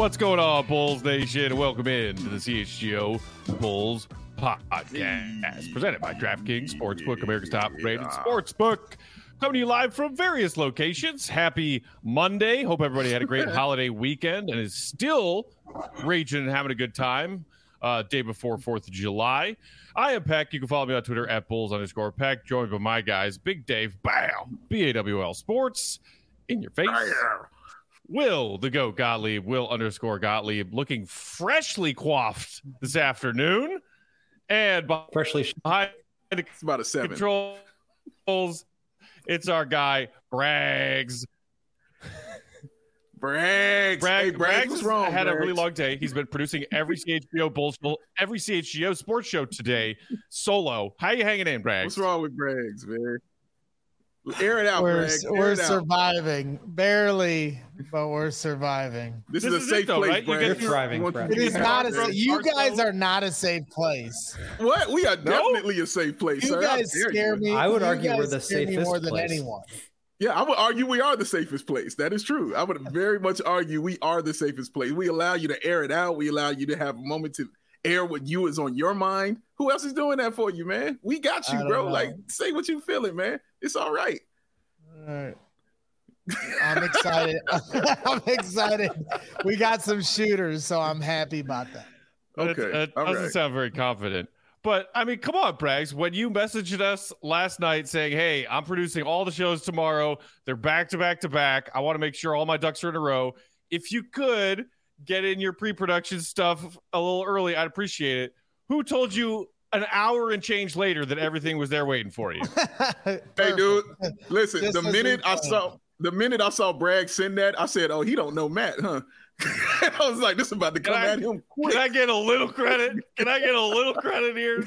What's going on, Bulls Nation? Welcome in to the CHGO Bulls Podcast, presented by DraftKings Sportsbook, America's top-rated sportsbook. Coming to you live from various locations. Happy Monday. Hope everybody had a great holiday weekend and is still raging and having a good time day before 4th of July. I am Peck. You can follow me on Twitter at Bulls_Peck. Joined by my guys, Big Dave, BAWL Sports, in your face. Will, the GOAT Gottlieb, Will_Gottlieb, looking freshly coiffed this afternoon. And freshly behind it's about a 7 controls, it's our guy, Braggs. Braggs, what's wrong? Had a really long day. He's been producing every CHGO Bulls, every CHGO sports show today, solo. How you hanging in, Braggs? What's wrong with Braggs, man? Air it out, Braggs. We're surviving. Barely, but we're surviving. This is a safe place, right? Braggs. You're thriving, It is not you guys are not a safe place. What? We are definitely a safe place, You sir. guys scare me. I would argue we're the safest more than place. anyone. Yeah, I would argue we are the safest place. That is true. I would very much argue we are the safest place. We allow you to air it out. We allow you to have a moment to air what you is on your mind. Who else is doing that for you, man? We got you, bro. know. Like, say what you feeling, man. It's all right. All right. I'm excited. I'm excited. We got some shooters, so I'm happy about that. Okay. That all doesn't right. sound very confident. But, I mean, come on, Braggs. When you messaged us last night saying, hey, I'm producing all the shows tomorrow. They're back to back to back. I want to make sure all my ducks are in a row. If you could get in your pre-production stuff a little early, I'd appreciate it. Who told you an hour and change later that everything was there waiting for you? Hey, dude, listen, Just the as minute I saw Bragg send that, I said, oh, he don't know Matt, huh? I was like, this is about to come at him quick. Can I get a little credit? Can I get a little credit here?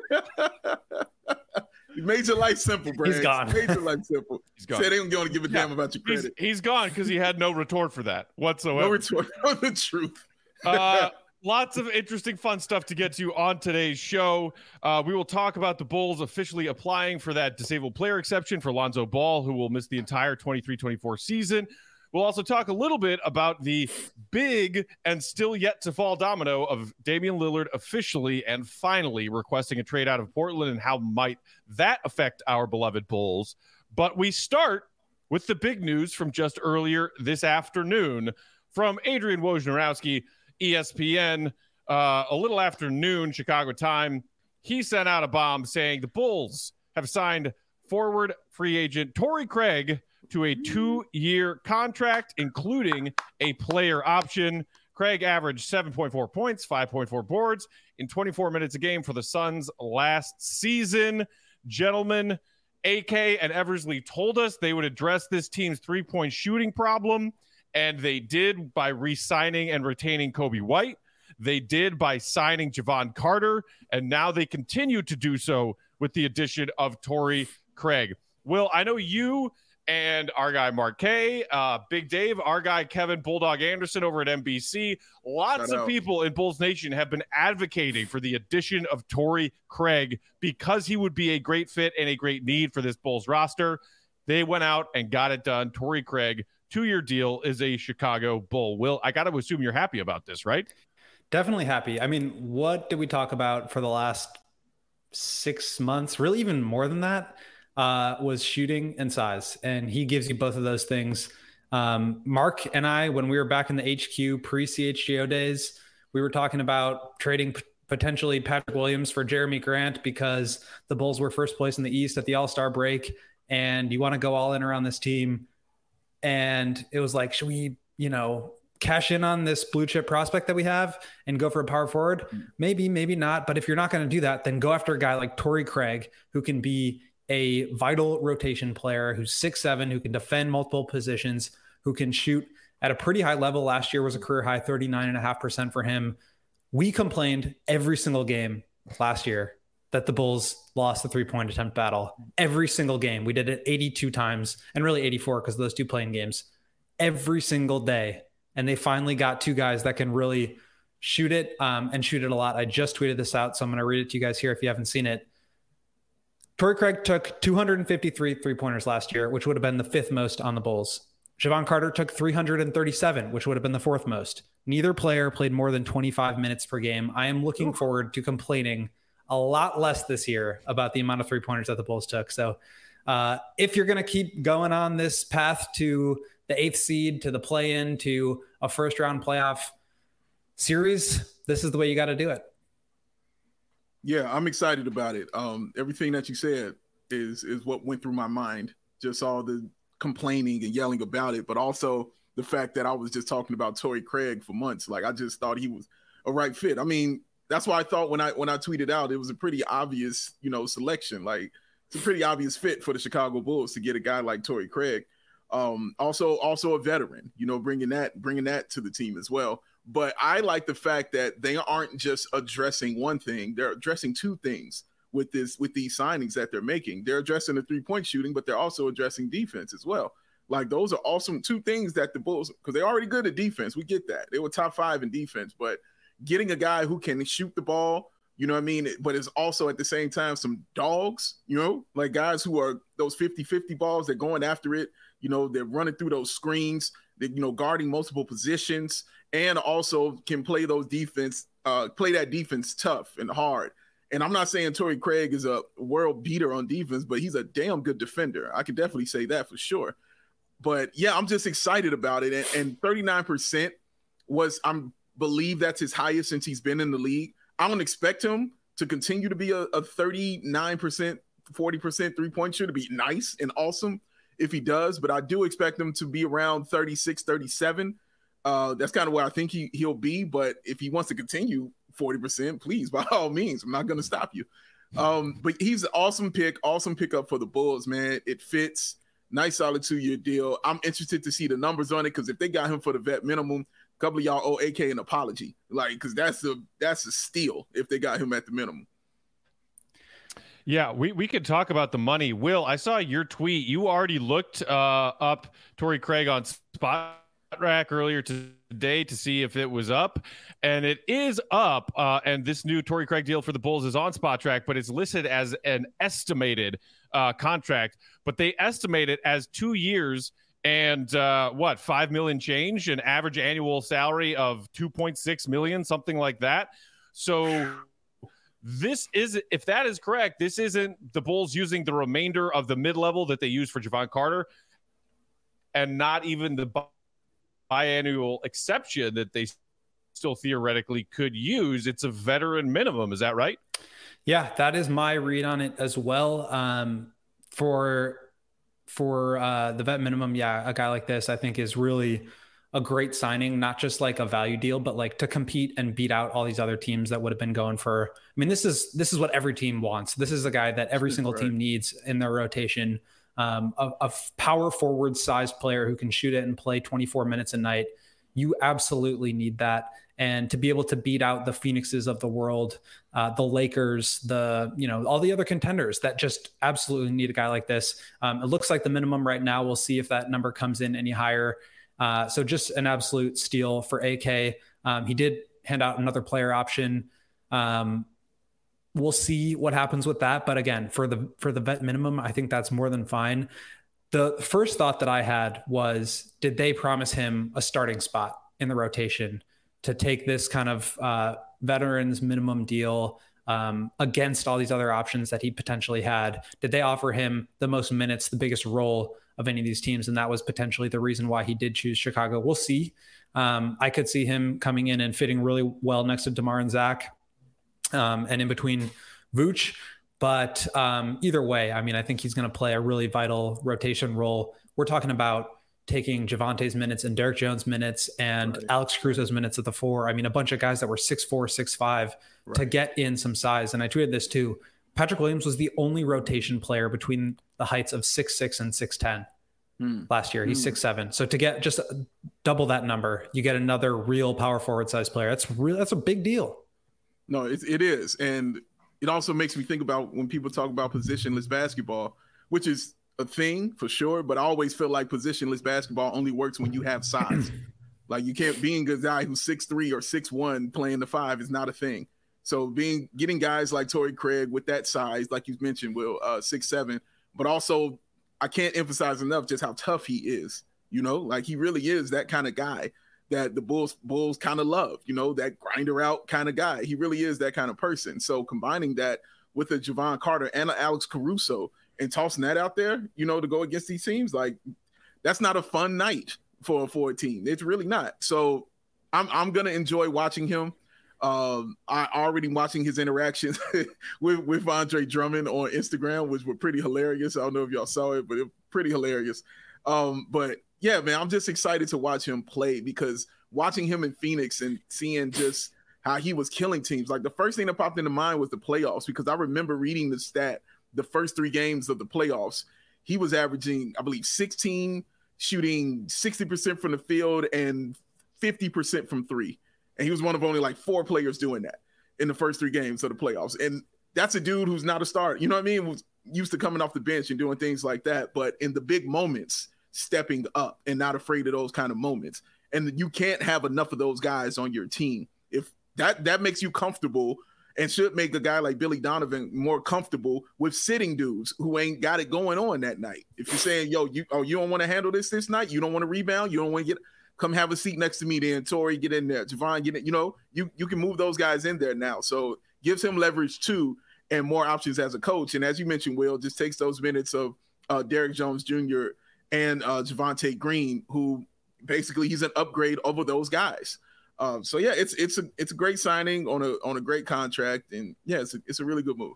You made your life simple, Bragg. He's gone. Made your life simple. He's gone. Said they don't going to give a damn about your credit. He's gone because he had no retort for that whatsoever. No retort on the truth. Lots of interesting, fun stuff to get to on today's show. We will talk about the Bulls officially applying for that disabled player exception for Lonzo Ball, who will miss the entire 23-24 season. We'll also talk a little bit about the big and still yet to fall domino of Damian Lillard officially and finally requesting a trade out of Portland and how might that affect our beloved Bulls. But we start with the big news from just earlier this afternoon from Adrian Wojnarowski, ESPN, a little after noon Chicago time. He sent out a bomb saying the Bulls have signed forward free agent Torrey Craig to a 2-year contract, including a player option. Craig averaged 7.4 points, 5.4 boards in 24 minutes a game for the Suns last season. Gentlemen, AK and Eversley told us they would address this team's three-point shooting problem, and they did by re-signing and retaining Kobe White. They did by signing Javon Carter, and now they continue to do so with the addition of Torrey Craig. Will, I know you and our guy Mark K, Big Dave, our guy Kevin Bulldog Anderson over at NBC. Lots of people in Bulls Nation have been advocating for the addition of Torrey Craig because he would be a great fit and a great need for this Bulls roster. They went out and got it done. Torrey Craig, 2-year deal, is a Chicago Bull. Will, I got to assume you're happy about this, right? Definitely happy. I mean, what did we talk about for the last 6 months? Really, even more than that, was shooting and size. And he gives you both of those things. Mark and I, when we were back in the HQ pre-CHGO days, we were talking about trading potentially Patrick Williams for Jeremy Grant because the Bulls were first place in the East at the All-Star break. And you want to go all in around this team. And it was like, should we, cash in on this blue chip prospect that we have and go for a power forward? Maybe, maybe not. But if you're not going to do that, then go after a guy like Torrey Craig, who can be a vital rotation player, who's 6'7", who can defend multiple positions, who can shoot at a pretty high level. Last year was a career high 39.5% for him. We complained every single game last year that the Bulls lost the 3-point attempt battle. Every single game. We did it 82 times and really 84 because of those 2 playing games. Every single day. And they finally got 2 guys that can really shoot it and shoot it a lot. I just tweeted this out, so I'm going to read it to you guys here if you haven't seen it. Torrey Craig took 253 3-pointers last year, which would have been the 5th most on the Bulls. Javon Carter took 337, which would have been the 4th most. Neither player played more than 25 minutes per game. I am looking forward to complaining a lot less this year about the amount of 3-pointers that the Bulls took. So if you're going to keep going on this path to the 8th seed, to the play-in, to a first-round playoff series, this is the way you got to do it. Yeah, I'm excited about it. Everything that you said is what went through my mind. Just all the complaining and yelling about it, but also the fact that I was just talking about Torrey Craig for months. Like, I just thought he was a right fit. I mean, that's why I thought when I tweeted out, it was a pretty obvious, selection. Like, it's a pretty obvious fit for the Chicago Bulls to get a guy like Torrey Craig. Also a veteran, bringing that to the team as well. But I like the fact that they aren't just addressing one thing; they're addressing two things with these signings that they're making. They're addressing the 3-point shooting, but they're also addressing defense as well. Like, those are awesome two things that the Bulls, because they're already good at defense. We get that. They were top 5 in defense, but getting a guy who can shoot the ball, but is also at the same time some dogs, like guys who are those 50-50 balls, they're going after it, they're running through those screens, they're, guarding multiple positions, and also can play that defense tough and hard. And I'm not saying Torrey Craig is a world beater on defense, but he's a damn good defender. I can definitely say that for sure. But yeah, I'm just excited about it. And 39% believe that's his highest since he's been in the league. I don't expect him to continue to be a 39%, 40% 3-point shooter. Be nice and awesome if he does, but I do expect him to be around 36, 37. That's kind of where I think he'll be. But if he wants to continue 40%, please, by all means, I'm not going to stop you. But he's an awesome pickup for the Bulls, man. It fits. Nice, solid 2-year deal. I'm interested to see the numbers on it, because if they got him for the vet minimum, a couple of y'all owe AK an apology, because that's a steal if they got him at the minimum. Yeah, we could talk about the money. Will, I saw your tweet. You already looked up Torrey Craig on SpotRack earlier today to see if it was up, and it is up. And this new Torrey Craig deal for the Bulls is on SpotRack, but it's listed as an estimated contract. But they estimate it as 2 years and $5 million change, an average annual salary of $2.6 million, something like that. So this is, if that is correct, this isn't the Bulls using the remainder of the mid-level that they used for Javon Carter, and not even the biannual exception that they still theoretically could use. It's a veteran minimum. Is that right? Yeah, that is my read on it as well. For the vet minimum, yeah, a guy like this I think is really a great signing, not just like a value deal, but like to compete and beat out all these other teams that would have been going for. I mean, this is what every team wants. This is a guy that every single team needs in their rotation. A power forward sized player who can shoot it and play 24 minutes a night. You absolutely need that. And to be able to beat out the Phoenixes of the world, the Lakers, all the other contenders that just absolutely need a guy like this. It looks like the minimum right now. We'll see if that number comes in any higher. So just an absolute steal for AK. He did hand out another player option. We'll see what happens with that. But again, for the vet minimum, I think that's more than fine. The first thought that I had was, did they promise him a starting spot in the rotation to take this kind of veterans minimum deal against all these other options that he potentially had? Did they offer him the most minutes, the biggest role of any of these teams? And that was potentially the reason why he did choose Chicago. We'll see. I could see him coming in and fitting really well next to DeMar and Zach and in between Vooch. But either way, I mean, I think he's going to play a really vital rotation role. We're talking about taking Javante's minutes and Derek Jones' minutes and Alex Caruso's minutes at the 4. I mean, a bunch of guys that were 6'4", 6'5", to get in some size. And I tweeted this too. Patrick Williams was the only rotation player between the heights of 6'6" and 6'10" last year. He's 6'7". So to get just double that number, you get another real power forward size player. That's a big deal. No, it is. And it also makes me think about when people talk about positionless basketball, which is a thing for sure, but I always feel like positionless basketball only works when you have size. Like, you can't, being a guy who's 6'3" or 6'1" playing the 5 is not a thing. So getting guys like Torrey Craig with that size, like you mentioned, Will, 6'7", but also I can't emphasize enough just how tough he is. Like, he really is that kind of guy that the Bulls kind of love, that grinder out kind of guy. He really is that kind of person. So combining that with a Jevon Carter and an Alex Caruso and tossing that out there, to go against these teams, like that's not a fun night for a team. It's really not. So I'm going to enjoy watching him. I already watching his interactions with Andre Drummond on Instagram, which were pretty hilarious. I don't know if y'all saw it, but it was pretty hilarious. But yeah, man, I'm just excited to watch him play, because watching him in Phoenix and seeing just how he was killing teams, like the first thing that popped into mind was the playoffs, because I remember reading the stat, the first 3 games of the playoffs, he was averaging, I believe, 16, shooting 60% from the field and 50% from 3. And he was one of only like 4 players doing that in the first 3 games of the playoffs. And that's a dude who's not a starter. You know what I mean? Was used to coming off the bench and doing things like that. But in the big moments, stepping up and not afraid of those kind of moments. And you can't have enough of those guys on your team. If that makes you comfortable, and should make a guy like Billy Donovan more comfortable with sitting dudes who ain't got it going on that night. If you're saying, yo, you don't want to handle this night, you don't want to rebound, you don't want to come have a seat next to me then, Torrey, get in there, Jevon, get in, you can move those guys in there now. So gives him leverage too, and more options as a coach. And as you mentioned, Will, just takes those minutes of Derrick Jones Jr. and Javonte Green, who basically he's an upgrade over those guys. So yeah, it's a great signing on a great contract, and yeah, it's a really good move.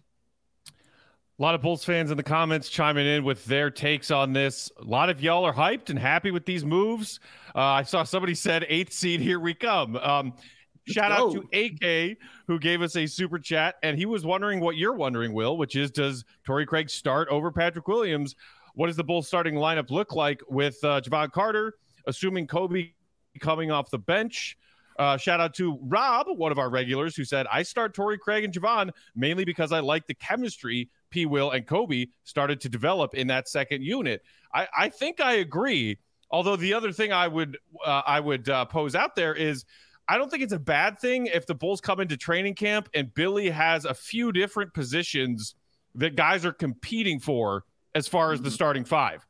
A lot of Bulls fans in the comments chiming in with their takes on this. A lot of y'all are hyped and happy with these moves. I saw somebody said 8th seed, here we come. Shout out to AK, who gave us a super chat, and he was wondering what you're wondering, Will, which is, does Torrey Craig start over Patrick Williams? What does the Bulls starting lineup look like with Jevon Carter, assuming Kobe coming off the bench? Shout out to Rob, one of our regulars, who said, I start Torrey Craig and Jevon mainly because I like the chemistry P. Will and Kobe started to develop in that second unit. I think I agree. Although the other thing I would pose out there is, I don't think it's a bad thing if the Bulls come into training camp and Billy has a few different positions that guys are competing for as far as the starting 5.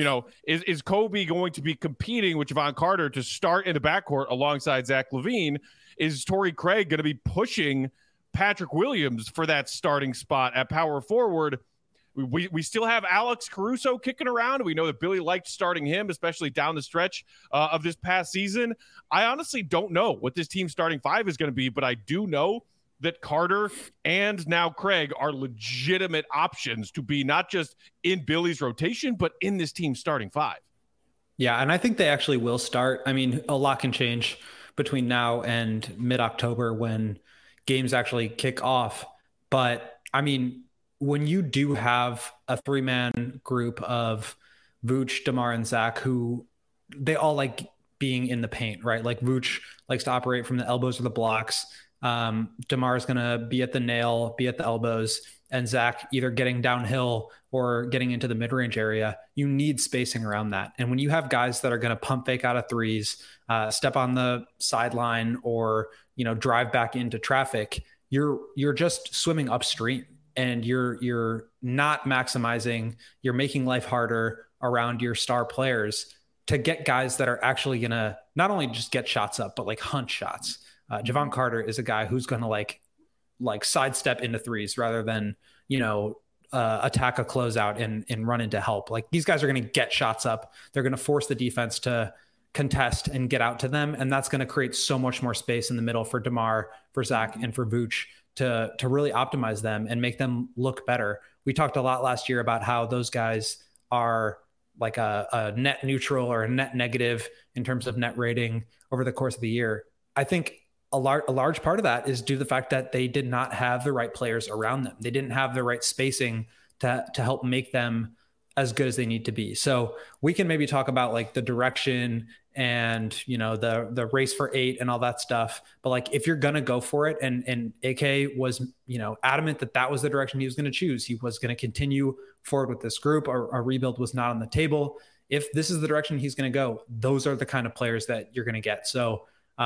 Is Kobe going to be competing with Jevon Carter to start in the backcourt alongside Zach LaVine? Is Torrey Craig going to be pushing Patrick Williams for that starting spot at power forward? We still have Alex Caruso kicking around. We know that Billy liked starting him, especially down the stretch of this past season. I honestly don't know what this team's starting 5 is going to be, but I do know that Carter and now Craig are legitimate options to be not just in Billy's rotation, but in this team's starting 5. Yeah, and I think they actually will start. I mean, a lot can change between now and mid-October when games actually kick off. But, I mean, when you do have a 3-man group of Vooch, DeMar, and Zach, who they all like being in the paint, right? Like Vooch likes to operate from the elbows or the blocks. DeMar is going to be at the nail, be at the elbows, and Zach either getting downhill or getting into the mid-range area. You need spacing around that. And when you have guys that are going to pump fake out of threes, step on the sideline, or, drive back into traffic, you're just swimming upstream, and you're not maximizing. You're making life harder around your star players to get guys that are actually going to not only just get shots up, but like hunt shots. Jevon Carter is a guy who's going to like sidestep into threes rather than, attack a closeout and run into help. Like, these guys are going to get shots up. They're going to force the defense to contest and get out to them. And that's going to create so much more space in the middle for DeMar, for Zach, and for Vooch to really optimize them and make them look better. We talked a lot last year about how those guys are like a net neutral or a net negative in terms of net rating over the course of the year. I think a large part of that is due to the fact that they did not have the right players around them. They didn't have the right spacing to help make them as good as they need to be. So we can maybe talk about like the direction and, the race for 8 and all that stuff. But like, if you're going to go for it, and AK was, adamant that was the direction he was going to choose. He was going to continue forward with this group. A rebuild was not on the table. If this is the direction he's going to go, those are the kind of players that you're going to get. So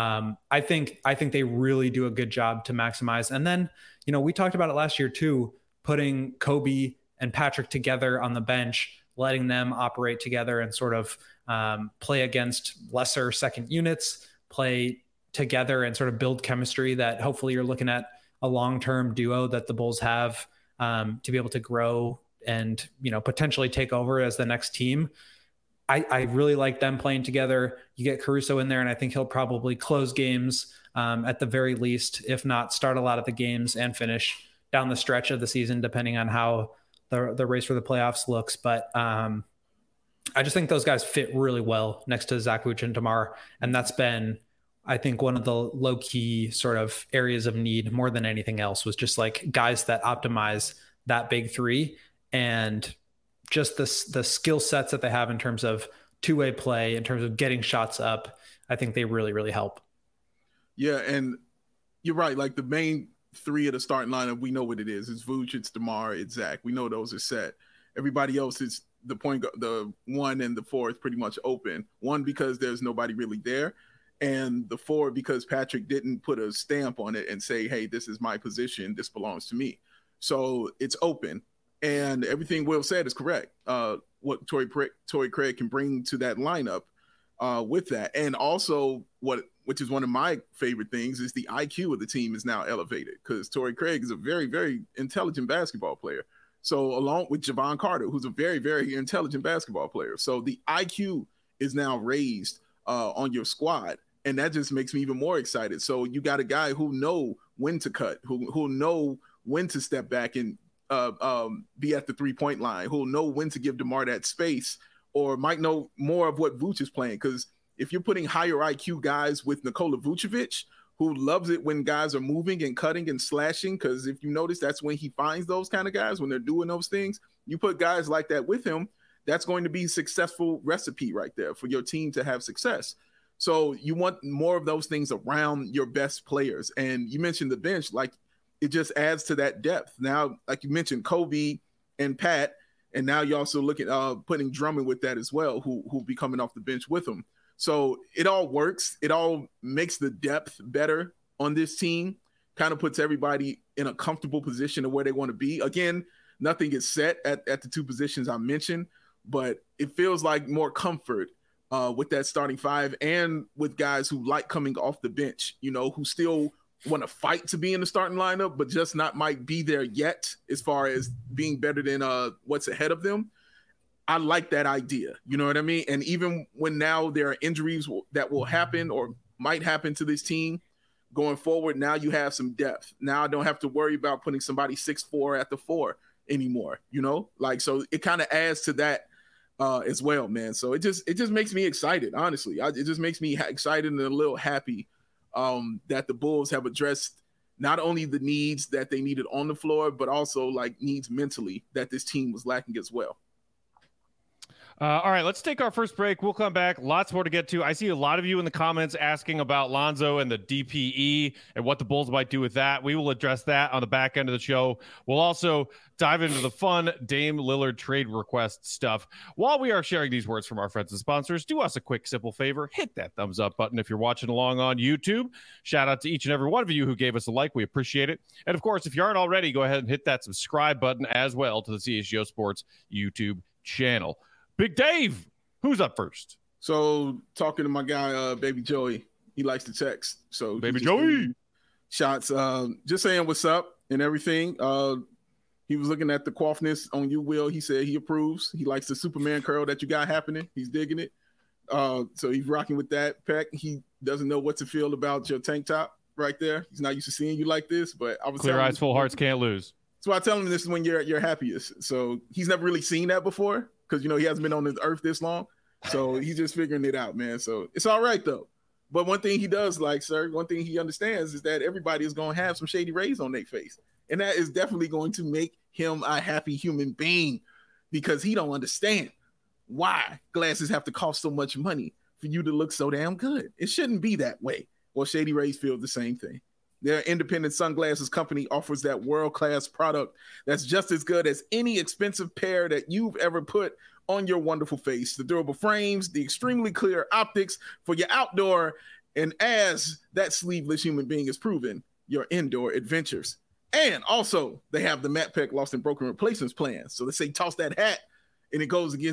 I think they really do a good job to maximize. And then, we talked about it last year too, putting Kobe and Patrick together on the bench, letting them operate together and sort of play against lesser second units, play together and sort of build chemistry that hopefully you're looking at a long-term duo that the Bulls have to be able to grow and, potentially take over as the next team. I really like them playing together. You get Caruso in there, and I think he'll probably close games at the very least, if not start a lot of the games and finish down the stretch of the season, depending on how the race for the playoffs looks. But I just think those guys fit really well next to Zach Vooch and DeMar. And that's been, I think, one of the low key sort of areas of need more than anything else, was just like guys that optimize that big three, and just the skill sets that they have in terms of two-way play, in terms of getting shots up. I think they really, really help. Yeah. And you're right. Like the main three of the starting lineup, we know what it is. It's Vooch, it's DeMar, it's Zach. We know those are set. Everybody else is the 1 and the 4 is pretty much open. 1, because there's nobody really there. And the 4, because Patrick didn't put a stamp on it and say, hey, this is my position. This belongs to me. So it's open. And everything Will said is correct. What Torrey Craig can bring to that lineup with that. And also which is one of my favorite things, is the IQ of the team is now elevated, because Torrey Craig is a very, very intelligent basketball player. So along with Javon Carter, who's a very, very intelligent basketball player. So the IQ is now raised on your squad. And that just makes me even more excited. So you got a guy who know when to cut, who know when to step back and be at the 3-point line, who'll know when to give DeMar that space, or might know more of what Vooch is playing. Because if you're putting higher IQ guys with Nikola Vucevic, who loves it when guys are moving and cutting and slashing, because if you notice, that's when he finds those kind of guys, when they're doing those things. You put guys like that with him, that's going to be a successful recipe right there for your team to have success. So you want more of those things around your best players. And you mentioned the bench, like it just adds to that depth. Now, like you mentioned, Kobe and Pat, and now you also look at putting Drummond with that as well, who'll be coming off the bench with him. So it all works. It all makes the depth better on this team, kind of puts everybody in a comfortable position of where they want to be. Again, nothing is set at the 2 positions I mentioned, but it feels like more comfort with that starting 5, and with guys who like coming off the bench, who still want to fight to be in the starting lineup, but just not might be there yet as far as being better than what's ahead of them. I like that idea. You know what I mean? And even when now there are injuries that will happen or might happen to this team going forward, now you have some depth. Now I don't have to worry about putting somebody 6'4" at the 4 anymore, so it kind of adds to that as well, man. So it just makes me excited, honestly. It just makes me excited and a little happy that the Bulls have addressed not only the needs that they needed on the floor, but also like needs mentally that this team was lacking as well. All right, let's take our first break. We'll come back. Lots more to get to. I see a lot of you in the comments asking about Lonzo and the DPE and what the Bulls might do with that. We will address that on the back end of the show. We'll also dive into the fun Dame Lillard trade request stuff. While we are sharing these words from our friends and sponsors, do us a quick, simple favor. Hit that thumbs up button if you're watching along on YouTube. Shout out to each and every one of you who gave us a like. We appreciate it. And, of course, if you aren't already, go ahead and hit that subscribe button as well to the CHGO Sports YouTube channel. Big Dave, who's up first? So talking to my guy, Baby Joey, he likes to text. So Baby Joey shots, just saying what's up and everything. He was looking at the coifness on you, Will. He said he approves. He likes the Superman curl that you got happening. He's digging it. So he's rocking with that. Peck, he doesn't know what to feel about your tank top right there. He's not used to seeing you like this, but I was clear eyes, full hearts can't lose. So I tell him this is when you're happiest. So he's never really seen that before, because he hasn't been on this earth this long. So he's just figuring it out, man. So it's all right though. But one thing he does like, sir, one thing he understands is that everybody is going to have some shady rays on their face. And that is definitely going to make him a happy human being, because he don't understand why glasses have to cost so much money for you to look so damn good. It shouldn't be that way. Well, Shady Rays feel the same thing. Their independent sunglasses company offers that world-class product that's just as good as any expensive pair that you've ever put on your wonderful face. The durable frames, the extremely clear optics for your outdoor, and as that sleeveless human being is proven, your indoor adventures. And also, they have the Matt Peck Lost and Broken Replacements plan. So they say toss that hat, and it goes against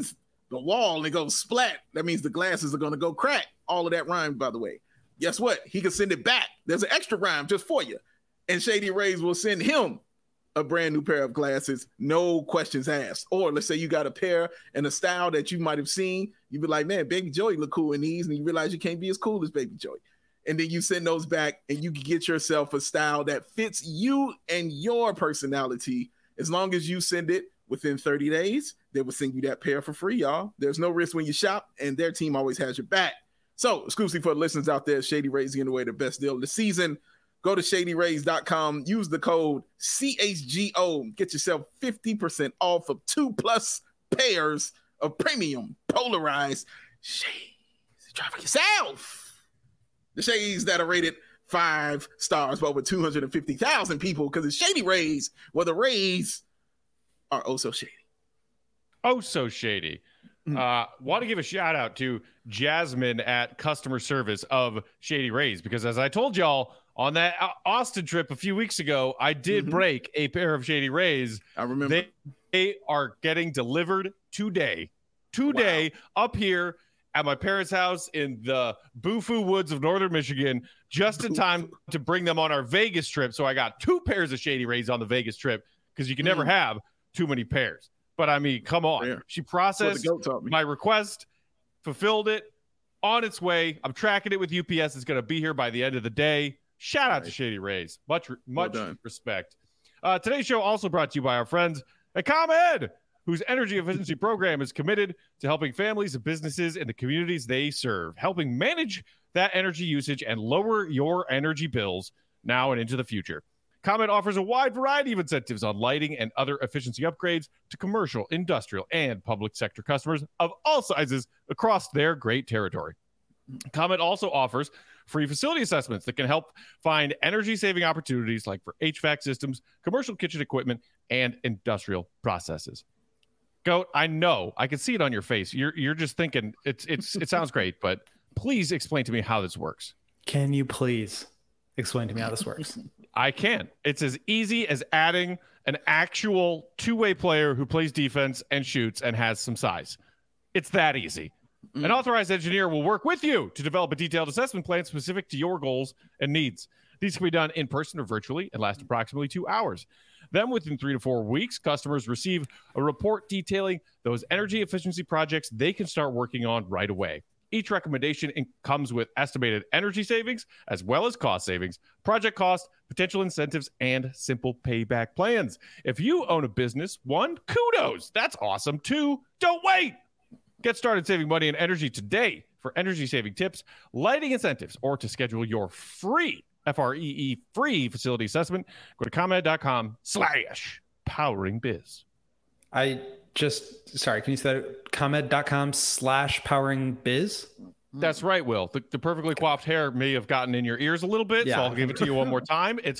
the wall and it goes splat, that means the glasses are going to go crack. All of that rhymes, by the way. Guess what? He can send it back. There's an extra rhyme just for you. And Shady Rays will send him a brand new pair of glasses, no questions asked. Or let's say you got a pair and a style that you might have seen. You'd be like, man, Baby Joey look cool in these. And you realize you can't be as cool as Baby Joey. And then you send those back and you can get yourself a style that fits you and your personality. As long as you send it within 30 days, they will send you that pair for free, y'all. There's no risk when you shop, and their team always has your back. So, exclusively for the listeners out there, Shady Rays giving away the best deal of the season. Go to shadyrays.com, use the code CHGO, get yourself 50% off of 2+ pairs of premium polarized shades. Try for yourself. The shades that are rated 5 stars by over 250,000 people, because it's Shady Rays, where the Rays are oh so shady. Oh so shady. Want to give a shout out to Jasmine at customer service of Shady Rays, because as I told y'all on that Austin trip a few weeks ago, I did break a pair of Shady Rays. I remember. They are getting delivered today up here at my parents' house in the Bufu woods of northern Michigan, just in time to bring them on our Vegas trip. So I got 2 pairs of Shady Rays on the Vegas trip, because you can never have too many pairs. But I mean, come on. Fair. She processed my request, fulfilled it, on its way. I'm tracking it with UPS. It's going to be here by the end of the day. Shout out to Shady Rays. Much respect. Today's show also brought to you by our friends at ComEd, whose energy efficiency program is committed to helping families and businesses in the communities they serve, helping manage that energy usage and lower your energy bills now and into the future. ComEd offers a wide variety of incentives on lighting and other efficiency upgrades to commercial, industrial, and public sector customers of all sizes across their great territory. ComEd also offers free facility assessments that can help find energy-saving opportunities like for HVAC systems, commercial kitchen equipment, and industrial processes. Goat, I know. I can see it on your face. You're just thinking it sounds great, but please explain to me how this works. Can you please explain to me how this works? I can. It's as easy as adding an actual two-way player who plays defense and shoots and has some size. It's that easy. An authorized engineer will work with you to develop a detailed assessment plan specific to your goals and needs. These can be done in person or virtually and last approximately 2 hours. Then within 3 to 4 weeks, customers receive a report detailing those energy efficiency projects they can start working on right away. Each recommendation comes with estimated energy savings as well as cost savings, project cost, potential incentives, and simple payback plans. If you own a business, 1, kudos. That's awesome. 2, don't wait. Get started saving money and energy today. For energy-saving tips, lighting incentives, or to schedule your free, FREE, free facility assessment, go to ComEd.com/poweringbiz. Sorry, can you say that? ComEd.com/poweringbiz? That's right, Will. The perfectly coiffed hair may have gotten in your ears a little bit, so I'll give it to you one more time. It's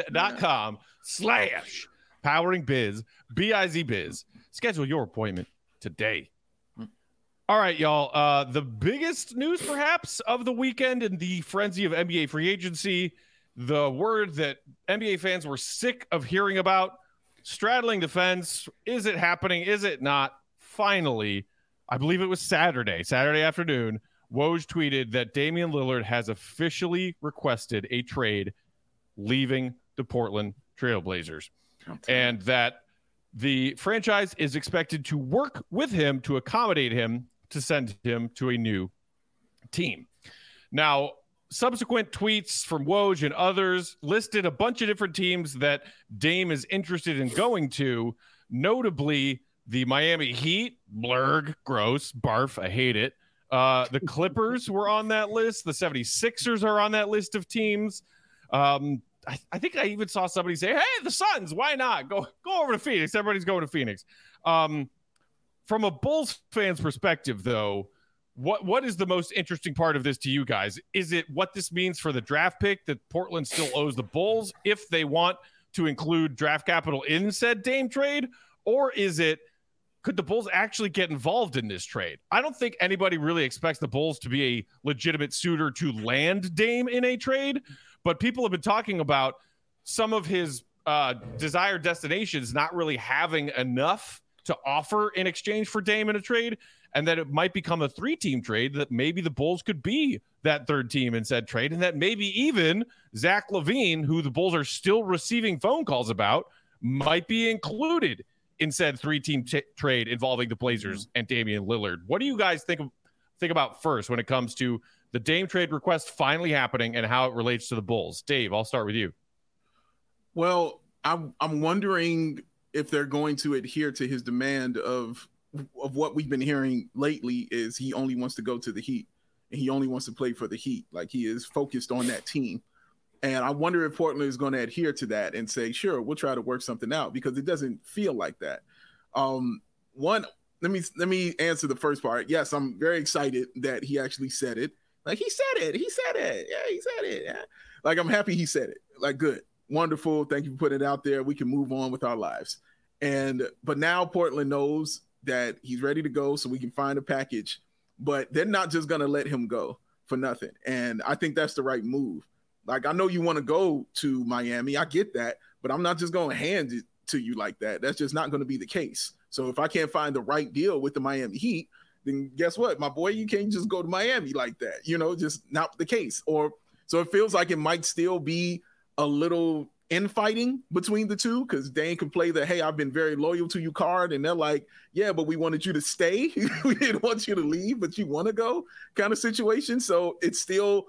ComEd.com/poweringbiz, B-I-Z-biz. Schedule your appointment today. All right, y'all. The biggest news, perhaps, of the weekend in the frenzy of NBA free agency, the word that NBA fans were sick of hearing about, straddling the fence. Is it happening? Is it not? Finally, I believe it was Saturday afternoon, Woj tweeted that Damian Lillard has officially requested a trade leaving the Portland Trailblazers, and that the franchise is expected to work with him to accommodate him to send him to a new team. Now, subsequent tweets from Woj and others listed a bunch of different teams that Dame is interested in going to, notably the Miami Heat, blurg, gross, barf, I hate it. The Clippers were on that list. The 76ers are on that list of teams. I think I even saw somebody say, hey, the Suns, why not? Go over to Phoenix. Everybody's going to Phoenix. From a Bulls fan's perspective, though, what is the most interesting part of this to you guys? Is it what this means for the draft pick that Portland still owes the Bulls if they want to include draft capital in said Dame trade? Or is it, could the Bulls actually get involved in this trade? I don't think anybody really expects the Bulls to be a legitimate suitor to land Dame in a trade, but people have been talking about some of his desired destinations not really having enough to offer in exchange for Dame in a trade. and that it might become a 3-team trade, that maybe the Bulls could be that third team in said trade, and that maybe even Zach LaVine, who the Bulls are still receiving phone calls about, might be included in said 3-team trade involving the Blazers and Damian Lillard. What do you guys think about first when it comes to the Dame trade request finally happening and how it relates to the Bulls? Dave, I'll start with you. Well, I'm wondering if they're going to adhere to his demand of what we've been hearing lately is he only wants to go to the Heat and he only wants to play for the Heat. Like, he is focused on that team. And I wonder if Portland is going to adhere to that and say, sure, we'll try to work something out, because it doesn't feel like that. Let me answer the first part. Yes, I'm very excited that he actually said it. Like, he said it. Yeah, he said it. Yeah. Like, I'm happy he said it. Like, good. Wonderful. Thank you for putting it out there. We can move on with our lives. But now Portland knows that he's ready to go, so we can find a package. But they're not just going to let him go for nothing. And I think that's the right move. Like, I know you want to go to Miami. I get that. But I'm not just going to hand it to you like that. That's just not going to be the case. So if I can't find the right deal with the Miami Heat, then guess what, my boy? You can't just go to Miami like that. Just not the case. So it feels like it might still be a little infighting between the two, because Dame can play the, hey, I've been very loyal to you card, and they're like, yeah, but we wanted you to stay. We didn't want you to leave, but you want to go kind of situation. So it's still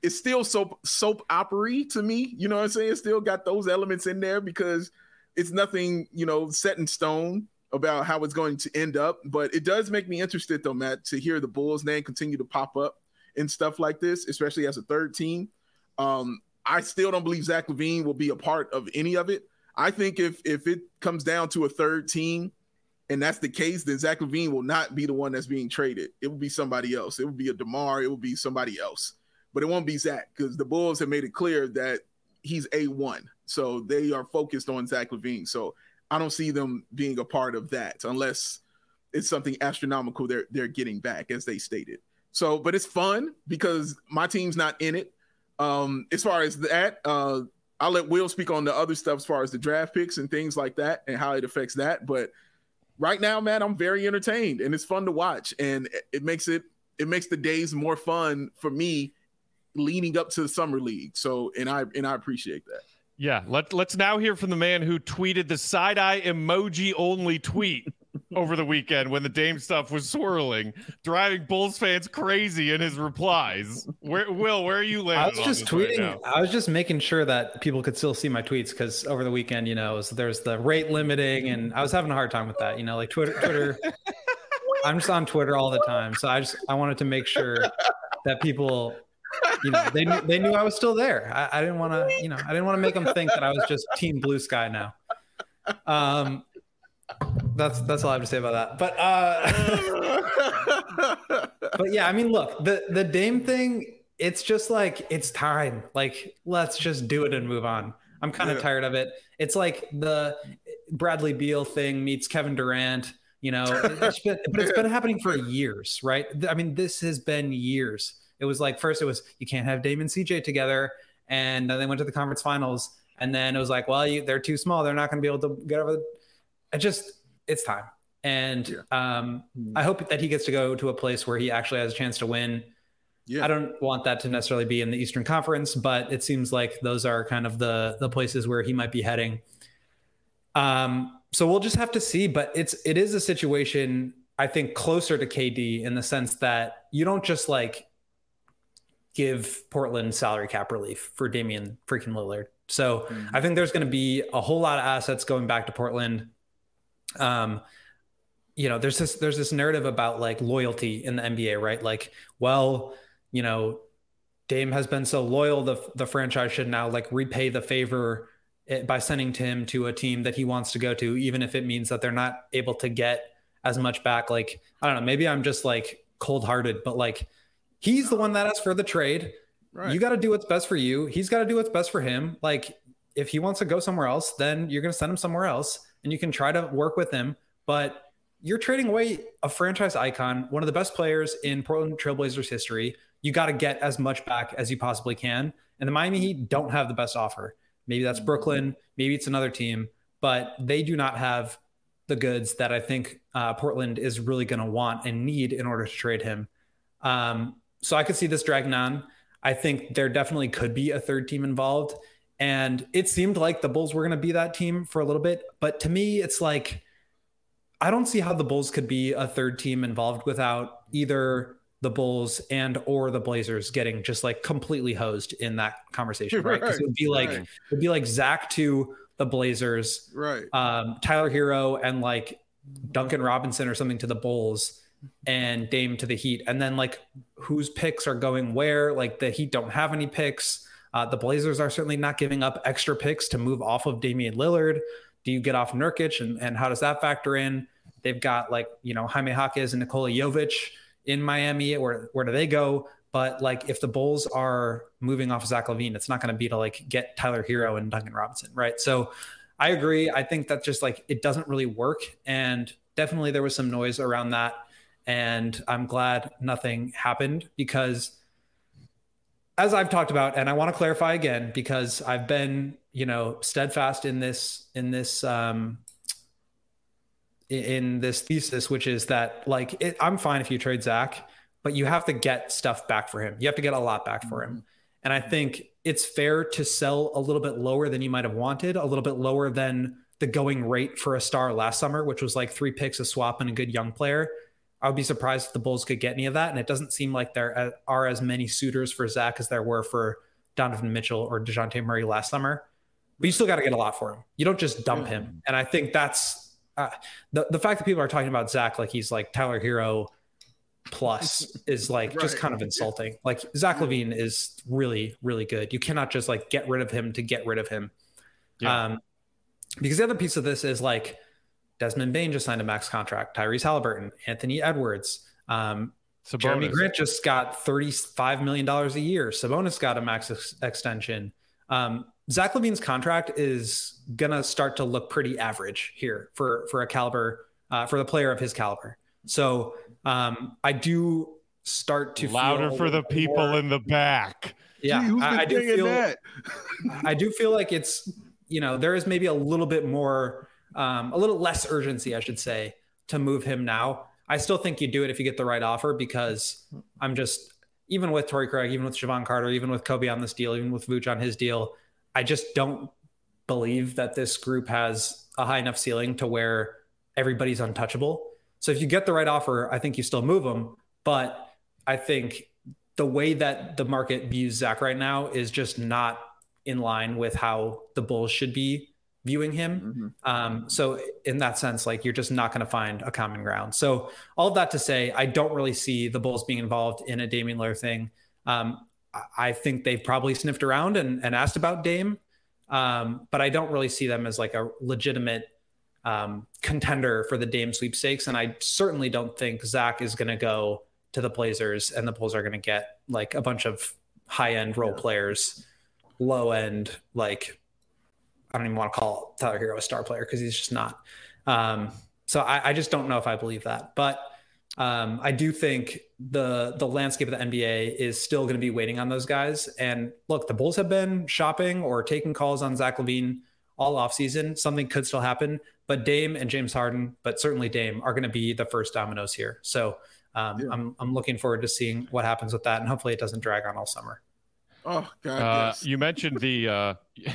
soap opera to me. You know what I'm saying? It's still got those elements in there, because it's nothing, set in stone about how it's going to end up. But it does make me interested, though, Matt, to hear the Bulls' name continue to pop up in stuff like this, especially as a third team. I still don't believe Zach LaVine will be a part of any of it. I think if it comes down to a third team, and that's the case, then Zach LaVine will not be the one that's being traded. It will be somebody else. It will be a DeMar. It will be somebody else. But it won't be Zach, because the Bulls have made it clear that he's A1. So they are focused on Zach LaVine. So I don't see them being a part of that unless it's something astronomical they're getting back, as they stated. So, but it's fun because my team's not in it. As far as that, I'll let Will speak on the other stuff as far as the draft picks and things like that and how it affects that. But right now, man, I'm very entertained and it's fun to watch, and it makes the days more fun for me leading up to the summer league. So, and I appreciate that. Yeah, let's now hear from the man who tweeted the side-eye emoji only tweet over the weekend when the Dame stuff was swirling, driving Bulls fans crazy in his replies. Where are you landing? I was just tweeting. Right, I was just making sure that people could still see my tweets, because over the weekend, there's the rate limiting, and I was having a hard time with that. Like Twitter. I'm just on Twitter all the time, so I wanted to make sure that people, they knew I was still there. I didn't want to make them think that I was just Team Blue Sky now. That's all I have to say about that. But yeah, I mean, look, the Dame thing, it's just like, it's time. Like, let's just do it and move on. I'm kind of tired of it. It's like the Bradley Beal thing meets Kevin Durant. But it's been happening for years, right? I mean, this has been years. It was like, first it was, you can't have Dame and CJ together. And then they went to the conference finals. And then it was like, well, they're too small. They're not going to be able to get over it's time. And I hope that he gets to go to a place where he actually has a chance to win. Yeah. I don't want that to necessarily be in the Eastern Conference, but it seems like those are kind of the places where he might be heading. So we'll just have to see, but it is a situation, I think, closer to KD in the sense that you don't just like give Portland salary cap relief for Damian freaking Lillard. So I think there's going to be a whole lot of assets going back to Portland. There's this narrative about like loyalty in the NBA, right? Like, well, Dame has been so loyal, the franchise should now like repay the favor by sending him to a team that he wants to go to, even if it means that they're not able to get as much back. Like, I don't know, maybe I'm just like cold-hearted, but like, he's the one that asked for the trade. Right. You got to do what's best for you. He's got to do what's best for him. Like, if he wants to go somewhere else, then you're going to send him somewhere else and you can try to work with him. But you're trading away a franchise icon, one of the best players in Portland Trailblazers history. You got to get as much back as you possibly can. And the Miami Heat don't have the best offer. Maybe that's Brooklyn. Maybe it's another team, but they do not have the goods that I think Portland is really going to want and need in order to trade him. So I could see this dragging on. I think there definitely could be a third team involved. And it seemed like the Bulls were going to be that team for a little bit. But to me, it's like, I don't see how the Bulls could be a third team involved without either the Bulls and or the Blazers getting just like completely hosed in that conversation, right? Because it would be like Zach to the Blazers, right? Tyler Hero and like Duncan Robinson or something to the Bulls, and Dame to the Heat. And then like whose picks are going where? Like the Heat don't have any picks. The Blazers are certainly not giving up extra picks to move off of Damian Lillard. Do you get off Nurkic and how does that factor in? They've got like, Jaime Jaquez and Nikola Jovic in Miami. Where do they go? But like if the Bulls are moving off of Zach LaVine, it's not going to be to like get Tyler Hero and Duncan Robinson, right? So I agree. I think that just like it doesn't really work. And definitely there was some noise around that. And I'm glad nothing happened because as I've talked about, and I want to clarify again, because I've been, steadfast in this thesis, which is that like, I'm fine if you trade Zach, but you have to get stuff back for him. You have to get a lot back for him. And I think it's fair to sell a little bit lower than you might've wanted, a little bit lower than the going rate for a star last summer, which was like 3 picks, a swap, and a good young player. I would be surprised if the Bulls could get any of that. And it doesn't seem like there are as many suitors for Zach as there were for Donovan Mitchell or DeJounte Murray last summer. But you still got to get a lot for him. You don't just dump him. And I think that's the fact that people are talking about Zach like he's like Tyler Hero plus is like just kind of insulting. Like Zach LaVine is really, really good. You cannot just like get rid of him to get rid of him. Yeah. Because the other piece of this is like, Desmond Bane just signed a max contract. Tyrese Halliburton, Anthony Edwards, Jeremy Grant just got $35 million a year. Sabonis got a max extension. Zach LaVine's contract is gonna start to look pretty average here for a caliber for the player of his caliber. So I do start to louder for the people in the back. Yeah, Gee, I do feel that. I do feel like it's there is maybe a little bit more. A little less urgency, I should say, to move him now. I still think you do it if you get the right offer because I'm just, even with Torrey Craig, even with Javon Carter, even with Kobe on this deal, even with Vooch on his deal, I just don't believe that this group has a high enough ceiling to where everybody's untouchable. So if you get the right offer, I think you still move them. But I think the way that the market views Zach right now is just not in line with how the Bulls should be viewing him. So in that sense, like you're just not going to find a common ground. So all of that to say, I don't really see the Bulls being involved in a Damian Lillard thing. I think they've probably sniffed around and asked about Dame. But I don't really see them as like a legitimate contender for the Dame sweepstakes. And I certainly don't think Zach is going to go to the Blazers and the Bulls are going to get like a bunch of high-end role players, low-end, like, I don't even want to call Tyler Hero a star player because he's just not. So I just don't know if I believe that. But I do think the landscape of the NBA is still going to be waiting on those guys. And look, the Bulls have been shopping or taking calls on Zach LaVine all offseason. Something could still happen. But Dame and James Harden, but certainly Dame, are going to be the first dominoes here. So I'm looking forward to seeing what happens with that. And hopefully it doesn't drag on all summer. Oh God! Yes. You mentioned the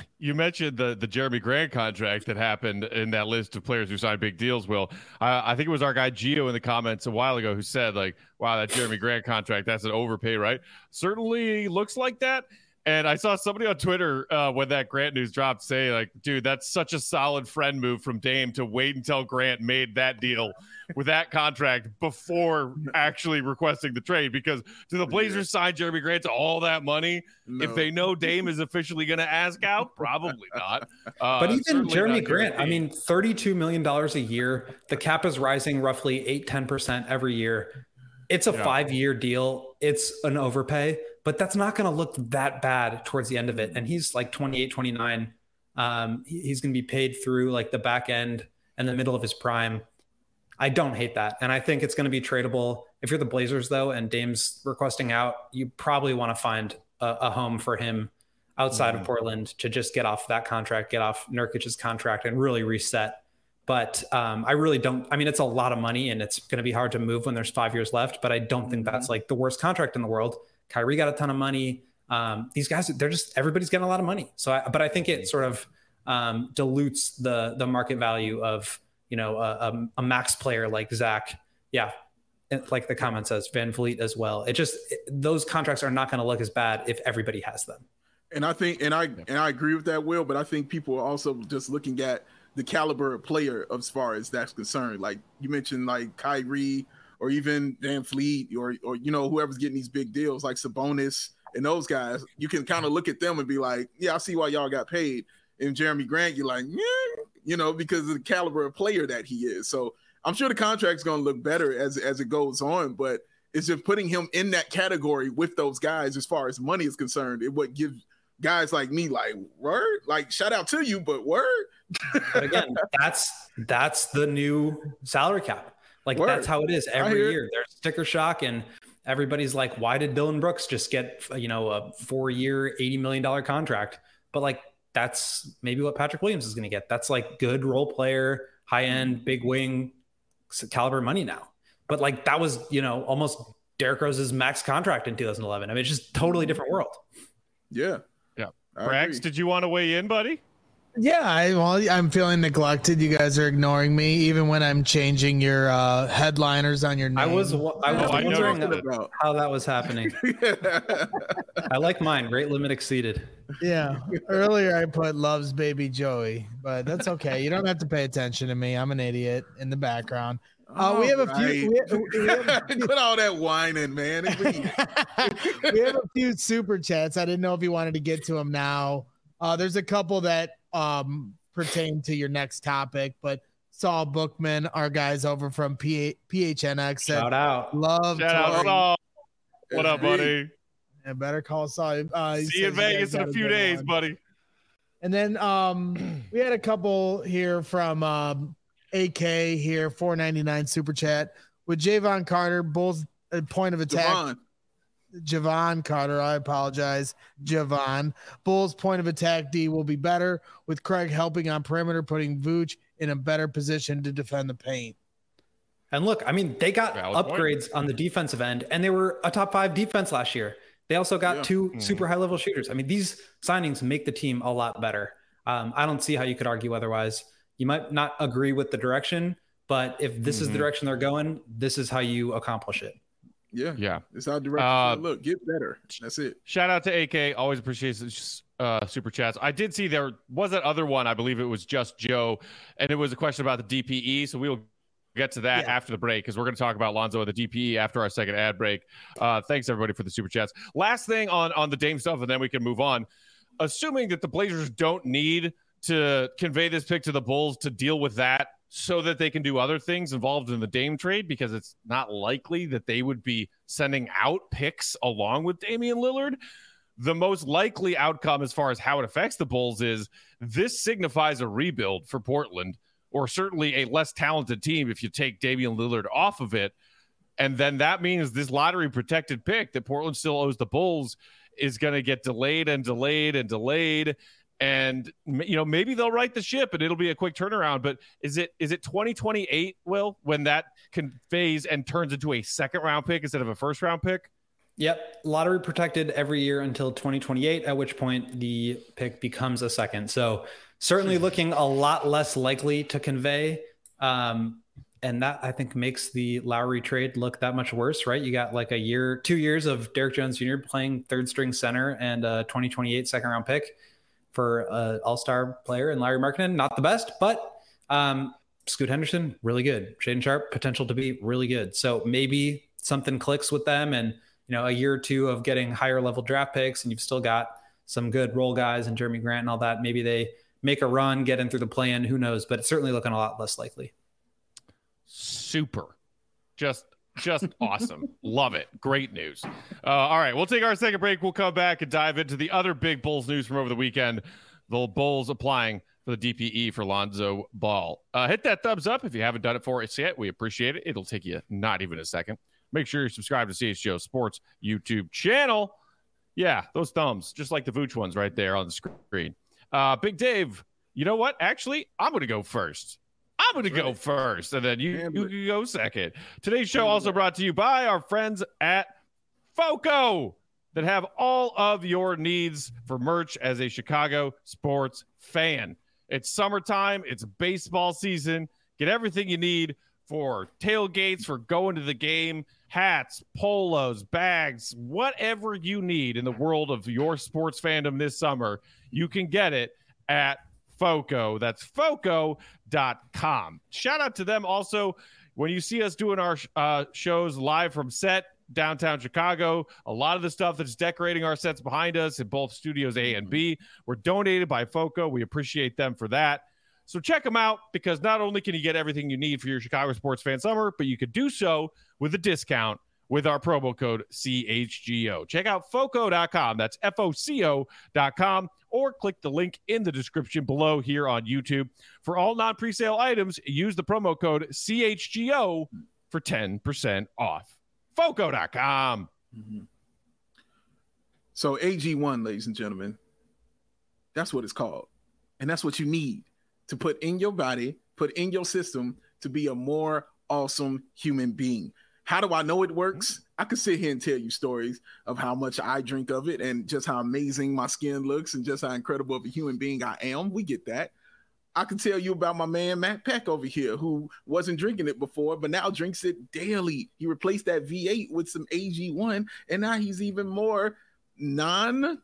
Jeremy Grant contract that happened in that list of players who signed big deals. Will, I think it was our guy Gio in the comments a while ago who said like, "Wow, that Jeremy Grant contract, that's an overpay, right?" Certainly looks like that. And I saw somebody on Twitter when that Grant news dropped say like, dude, that's such a solid friend move from Dame to wait until Grant made that deal with that contract before actually requesting the trade. Because do the Blazers sign Jeremy Grant to all that money if they know Dame is officially going to ask out? Probably not. But even Jeremy Grant, I mean, $32 million a year. The cap is rising roughly 8-10% every year. It's a 5-year deal. It's an overpay, but that's not going to look that bad towards the end of it. And he's like 28, 29. He's going to be paid through like the back end and the middle of his prime. I don't hate that. And I think it's going to be tradable. If you're the Blazers though, and Dame's requesting out, you probably want to find a home for him outside of Portland to just get off that contract, get off Nurkic's contract and really reset But I really don't. I mean, it's a lot of money, and it's going to be hard to move when there's 5 years left. But I don't think that's like the worst contract in the world. Kyrie got a ton of money. These guys, everybody's getting a lot of money. But I think it sort of dilutes the market value of a max player like Zach. Yeah, like the comment says, Van Vliet as well. Those contracts are not going to look as bad if everybody has them. And I think, and I agree with that, Will. But I think people are also just looking at the caliber of player as far as that's concerned. Like you mentioned, like Kyrie or even Van Vliet or whoever's getting these big deals like Sabonis and those guys. You can kind of look at them and be like, yeah, I see why y'all got paid. And Jeremy Grant, you're like, yeah, because of the caliber of player that he is. So I'm sure the contract's going to look better as it goes on, but it's just putting him in that category with those guys as far as money is concerned. It would give guys like me like, word, like shout out to you, but word. But again, that's the new salary cap. Like that's how it is every year. There's sticker shock, and everybody's like, why did Dylan Brooks just get a 4-year, $80 million contract? But like that's maybe what Patrick Williams is going to get. That's like good role player, high end, big wing caliber money now. But like that was almost Derrick Rose's max contract in 2011. I mean, it's just totally different world. Yeah. Brax, did you want to weigh in, buddy? Yeah, I'm feeling neglected. You guys are ignoring me, even when I'm changing your headliners on your name. I was wondering how that was happening. I like mine. Rate limit exceeded. Yeah. Earlier I put loves baby Joey, but that's okay. You don't have to pay attention to me. I'm an idiot in the background. We have a few. Put all that whining, man. We have a few super chats. I didn't know if you wanted to get to them now. There's a couple that pertain to your next topic, but Saul Bookman, our guys over from PHNX, said, shout out, love. Shout out, Saul. What up, buddy? Yeah, better call Saul. See you in Vegas in a few days, buddy. And then we had a couple here from AK here, $4.99 super chat with Javon Carter, Bulls point of attack. Javon Carter, I apologize. Javon. Bulls point of attack D will be better with Craig helping on perimeter, putting Vooch in a better position to defend the paint. And look, I mean, they got upgrades on the defensive end, and they were a top 5 defense last year. They also got 2 super high level shooters. I mean, these signings make the team a lot better. I don't see how you could argue otherwise. You might not agree with the direction, but if this is the direction they're going, this is how you accomplish it. Yeah. It's our direction. Look, get better. That's it. Shout out to AK. Always appreciate super chats. I did see there was that other one. I believe it was just Joe, and it was a question about the DPE. So we will get to that after the break because we're going to talk about Lonzo and the DPE after our second ad break. Thanks everybody for the super chats. Last thing on the Dame stuff, and then we can move on. Assuming that the Blazers don't need to convey this pick to the Bulls to deal with that so that they can do other things involved in the Dame trade, because it's not likely that they would be sending out picks along with Damian Lillard. The most likely outcome as far as how it affects the Bulls is this signifies a rebuild for Portland, or certainly a less talented team if you take Damian Lillard off of it. And then that means this lottery protected pick that Portland still owes the Bulls is going to get delayed and delayed and delayed. And, maybe they'll right the ship and it'll be a quick turnaround. But is it 2028, Will, when that conveys and turns into a second round pick instead of a first round pick? Yep. Lottery protected every year until 2028, at which point the pick becomes a second. So certainly looking a lot less likely to convey. And that, I think, makes the Lowry trade look that much worse, right? You got like 2 years of Derrick Jones Jr. playing third string center and a 2028 second round pick for an all-star player and Larry Markkinen. Not the best, but Scoot Henderson, really good. Shaedon Sharpe, potential to be really good. So maybe something clicks with them, and a year or two of getting higher level draft picks, and you've still got some good role guys and Jeremy Grant and all that. Maybe they make a run, get in through the play-in, who knows? But it's certainly looking a lot less likely. Super. Just awesome. Love it. Great news. All right, we'll take our second break. We'll come back and dive into the other big Bulls news from over the weekend. The Bulls applying for the DPE for Lonzo Ball. Hit that thumbs up if you haven't done it for us yet. We appreciate it. It'll take you not even a second. Make sure you're subscribed to CHGO Sports YouTube channel. Yeah, those thumbs, just like the Vooch ones right there on the screen. Big Dave, you know what? Actually, I'm going to go first. I'm going to go first, and then you can go second. Today's show also brought to you by our friends at FOCO that have all of your needs for merch as a Chicago sports fan. It's summertime. It's baseball season. Get everything you need for tailgates, for going to the game, hats, polos, bags, whatever you need in the world of your sports fandom this summer, you can get it at FOCO. That's FOCO.com. Shout out to them also. When you see us doing our shows live from set, downtown Chicago, a lot of the stuff that's decorating our sets behind us in both studios A and B were donated by FOCO. We appreciate them for that. So check them out, because not only can you get everything you need for your Chicago sports fan summer, but you could do so with a discount with our promo code CHGO. Check out FOCO.com. That's FOCO.com, or click the link in the description below here on YouTube. For all non-presale items, use the promo code CHGO for 10% off. FOCO.com. Mm-hmm. So AG1, ladies and gentlemen, that's what it's called. And that's what you need to put in your body, put in your system to be a more awesome human being. How do I know it works? I could sit here and tell you stories of how much I drink of it and just how amazing my skin looks and just how incredible of a human being I am. We get that. I can tell you about my man, Matt Peck over here, who wasn't drinking it before, but now drinks it daily. He replaced that V8 with some AG1, and now he's even more non-negative.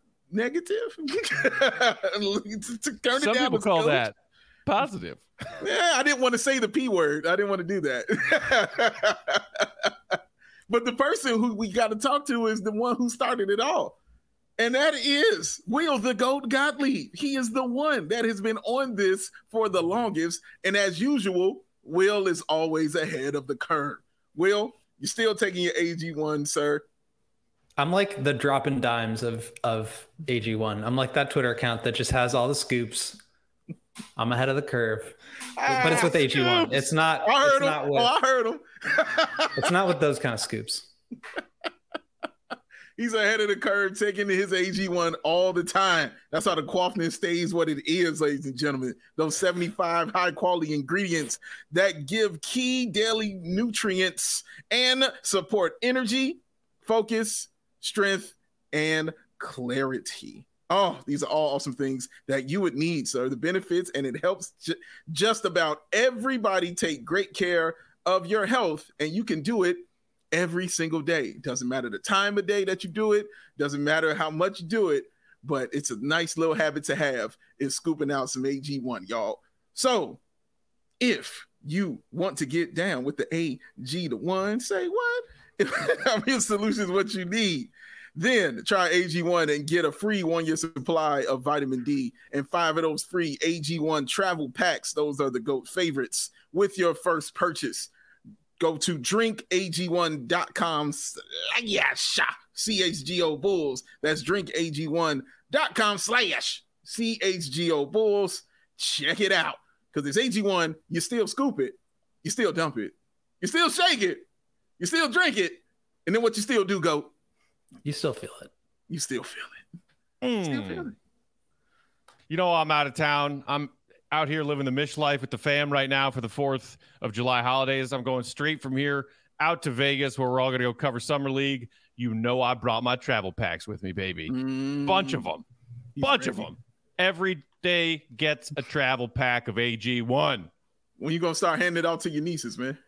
Some people call that positive. Yeah, I didn't want to say the P word. I didn't want to do that. But the person who we got to talk to is the one who started it all. And that is Will the GOAT Gottlieb. He is the one that has been on this for the longest. And as usual, Will is always ahead of the curve. Will, you're still taking your AG1, sir. I'm like the dropping dimes of AG1. I'm like that Twitter account that just has all the scoops. I'm ahead of the curve. But it's with AG1. Scoops. It's not. I heard him. It's not with those kind of scoops. He's ahead of the curve, taking his AG1 all the time. That's how the Quaffness stays what it is, ladies and gentlemen. Those 75 high-quality ingredients that give key daily nutrients and support energy, focus, strength, and clarity. Oh, these are all awesome things that you would need, sir. The benefits, and it helps just about everybody take great care of your health, and you can do it every single day. Doesn't matter the time of day that you do it, doesn't matter how much you do it, but it's a nice little habit to have, is scooping out some AG1, y'all. So if you want to get down with the AG, the one, say what? I mean, solution is what you need. Then try AG1 and get a free 1-year supply of vitamin D and 5 of those free AG1 travel packs. Those are the GOAT favorites with your first purchase. Go to drinkag1.com. CHGO Bulls. That's drinkag1.com/CHGO Bulls. Check it out. Because it's AG1, you still scoop it, you still dump it, you still shake it, you still drink it, and then what you still do, GOAT? You still feel it. You still feel it. Still feel it. You know, I'm out of town. I'm out here living the Mish life with the fam right now for the 4th of July holidays. I'm going straight from here out to Vegas, where we're all going to go cover Summer League. You know, I brought my travel packs with me, baby. Bunch of them. Of them. Every day gets a travel pack of AG1. When you going to start handing it out to your nieces, man?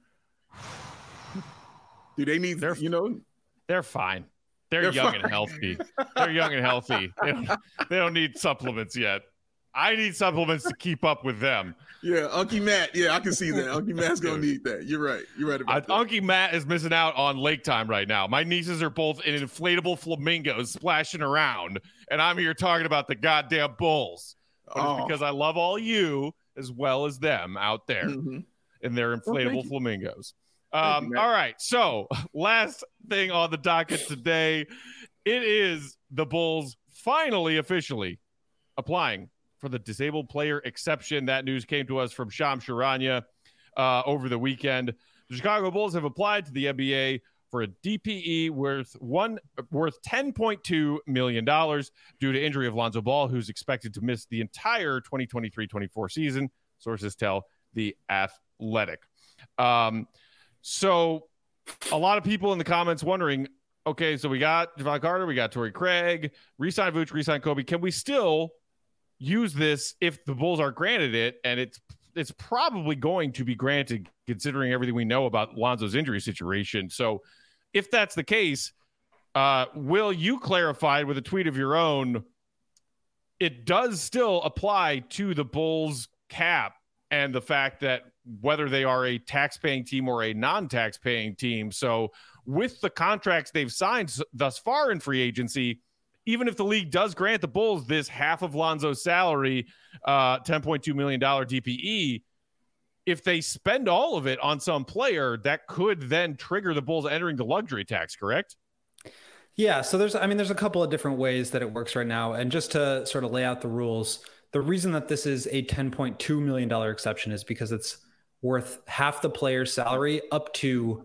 Do they need, They're fine. They're young and healthy. They're young and healthy. They don't need supplements yet. I need supplements to keep up with them. Yeah, Unky Matt. Yeah, I can see that. Unky Matt's going to need that. You're right. You're right about that. Unky Matt is missing out on lake time right now. My nieces are both in inflatable flamingos splashing around, and I'm here talking about the goddamn Bulls. But it's because I love all you as well as them out there in their inflatable flamingos. All right. So last thing on the docket today, it is the Bulls finally officially applying for the disabled player exception. That news came to us from Shams Charania over the weekend. The Chicago Bulls have applied to the NBA for a DPE worth $10.2 million due to injury of Lonzo Ball, who's expected to miss the entire 2023-24 season, sources tell The Athletic. So a lot of people in the comments wondering, okay, so we got Javon Carter, we got Torrey Craig, re-sign Vooch, re-sign Kobe. Can we still use this if the Bulls are granted it? And it's probably going to be granted considering everything we know about Lonzo's injury situation. So if that's the case, Will, you clarified with a tweet of your own, it does still apply to the Bulls cap and the fact that whether they are a tax-paying team or a non-tax-paying team. So with the contracts they've signed thus far in free agency, even if the league does grant the Bulls this half of Lonzo's salary, $10.2 million DPE, if they spend all of it on some player, that could then trigger the Bulls entering the luxury tax, correct? Yeah, so there's a couple of different ways that it works right now. And just to sort of lay out the rules, the reason that this is a $10.2 million exception is because it's worth half the player's salary up to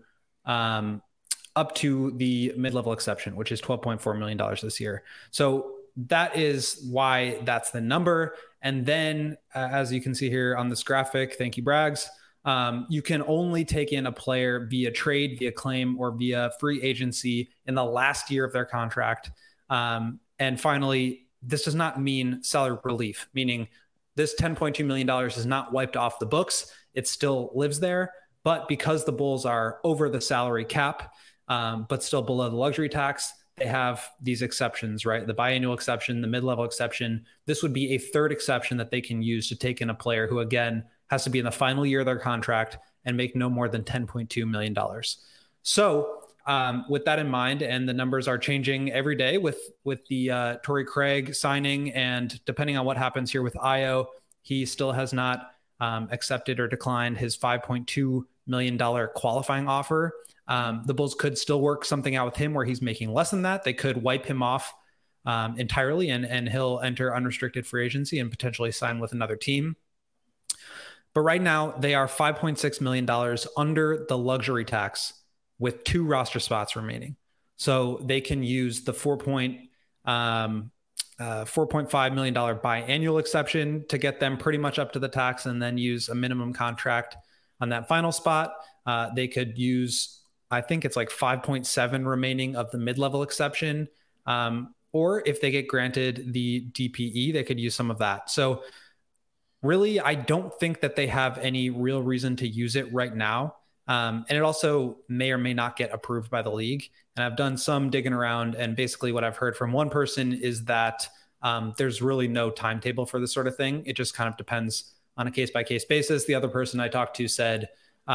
the mid-level exception, which is $12.4 million this year. So that is why that's the number. And then as you can see here on this graphic, thank you, Braggs, you can only take in a player via trade, via claim, or via free agency in the last year of their contract. And finally, this does not mean salary relief, meaning this $10.2 million is not wiped off the books. It still lives there. But because the Bulls are over the salary cap, but still below the luxury tax, they have these exceptions, right? The biannual exception, the mid-level exception. This would be a third exception that they can use to take in a player who, again, has to be in the final year of their contract and make no more than $10.2 million. So with that in mind, and the numbers are changing every day with the Torrey Craig signing, and depending on what happens here with Ayo, he still has not accepted or declined his $5.2 million qualifying offer. The Bulls could still work something out with him where he's making less than that. They could wipe him off entirely, and he'll enter unrestricted free agency and potentially sign with another team. But right now, they are $5.6 million under the luxury tax with 2 roster spots remaining. So they can use the $4.5 million biannual exception to get them pretty much up to the tax, and then use a minimum contract on that final spot. They could use, I think it's like 5.7 remaining of the mid-level exception. Or if they get granted the DPE, they could use some of that. So really, I don't think that they have any real reason to use it right now. And it also may or may not get approved by the league. And I've done some digging around, and basically what I've heard from one person is that there's really no timetable for this sort of thing. It just kind of depends on a case-by-case basis. The other person I talked to said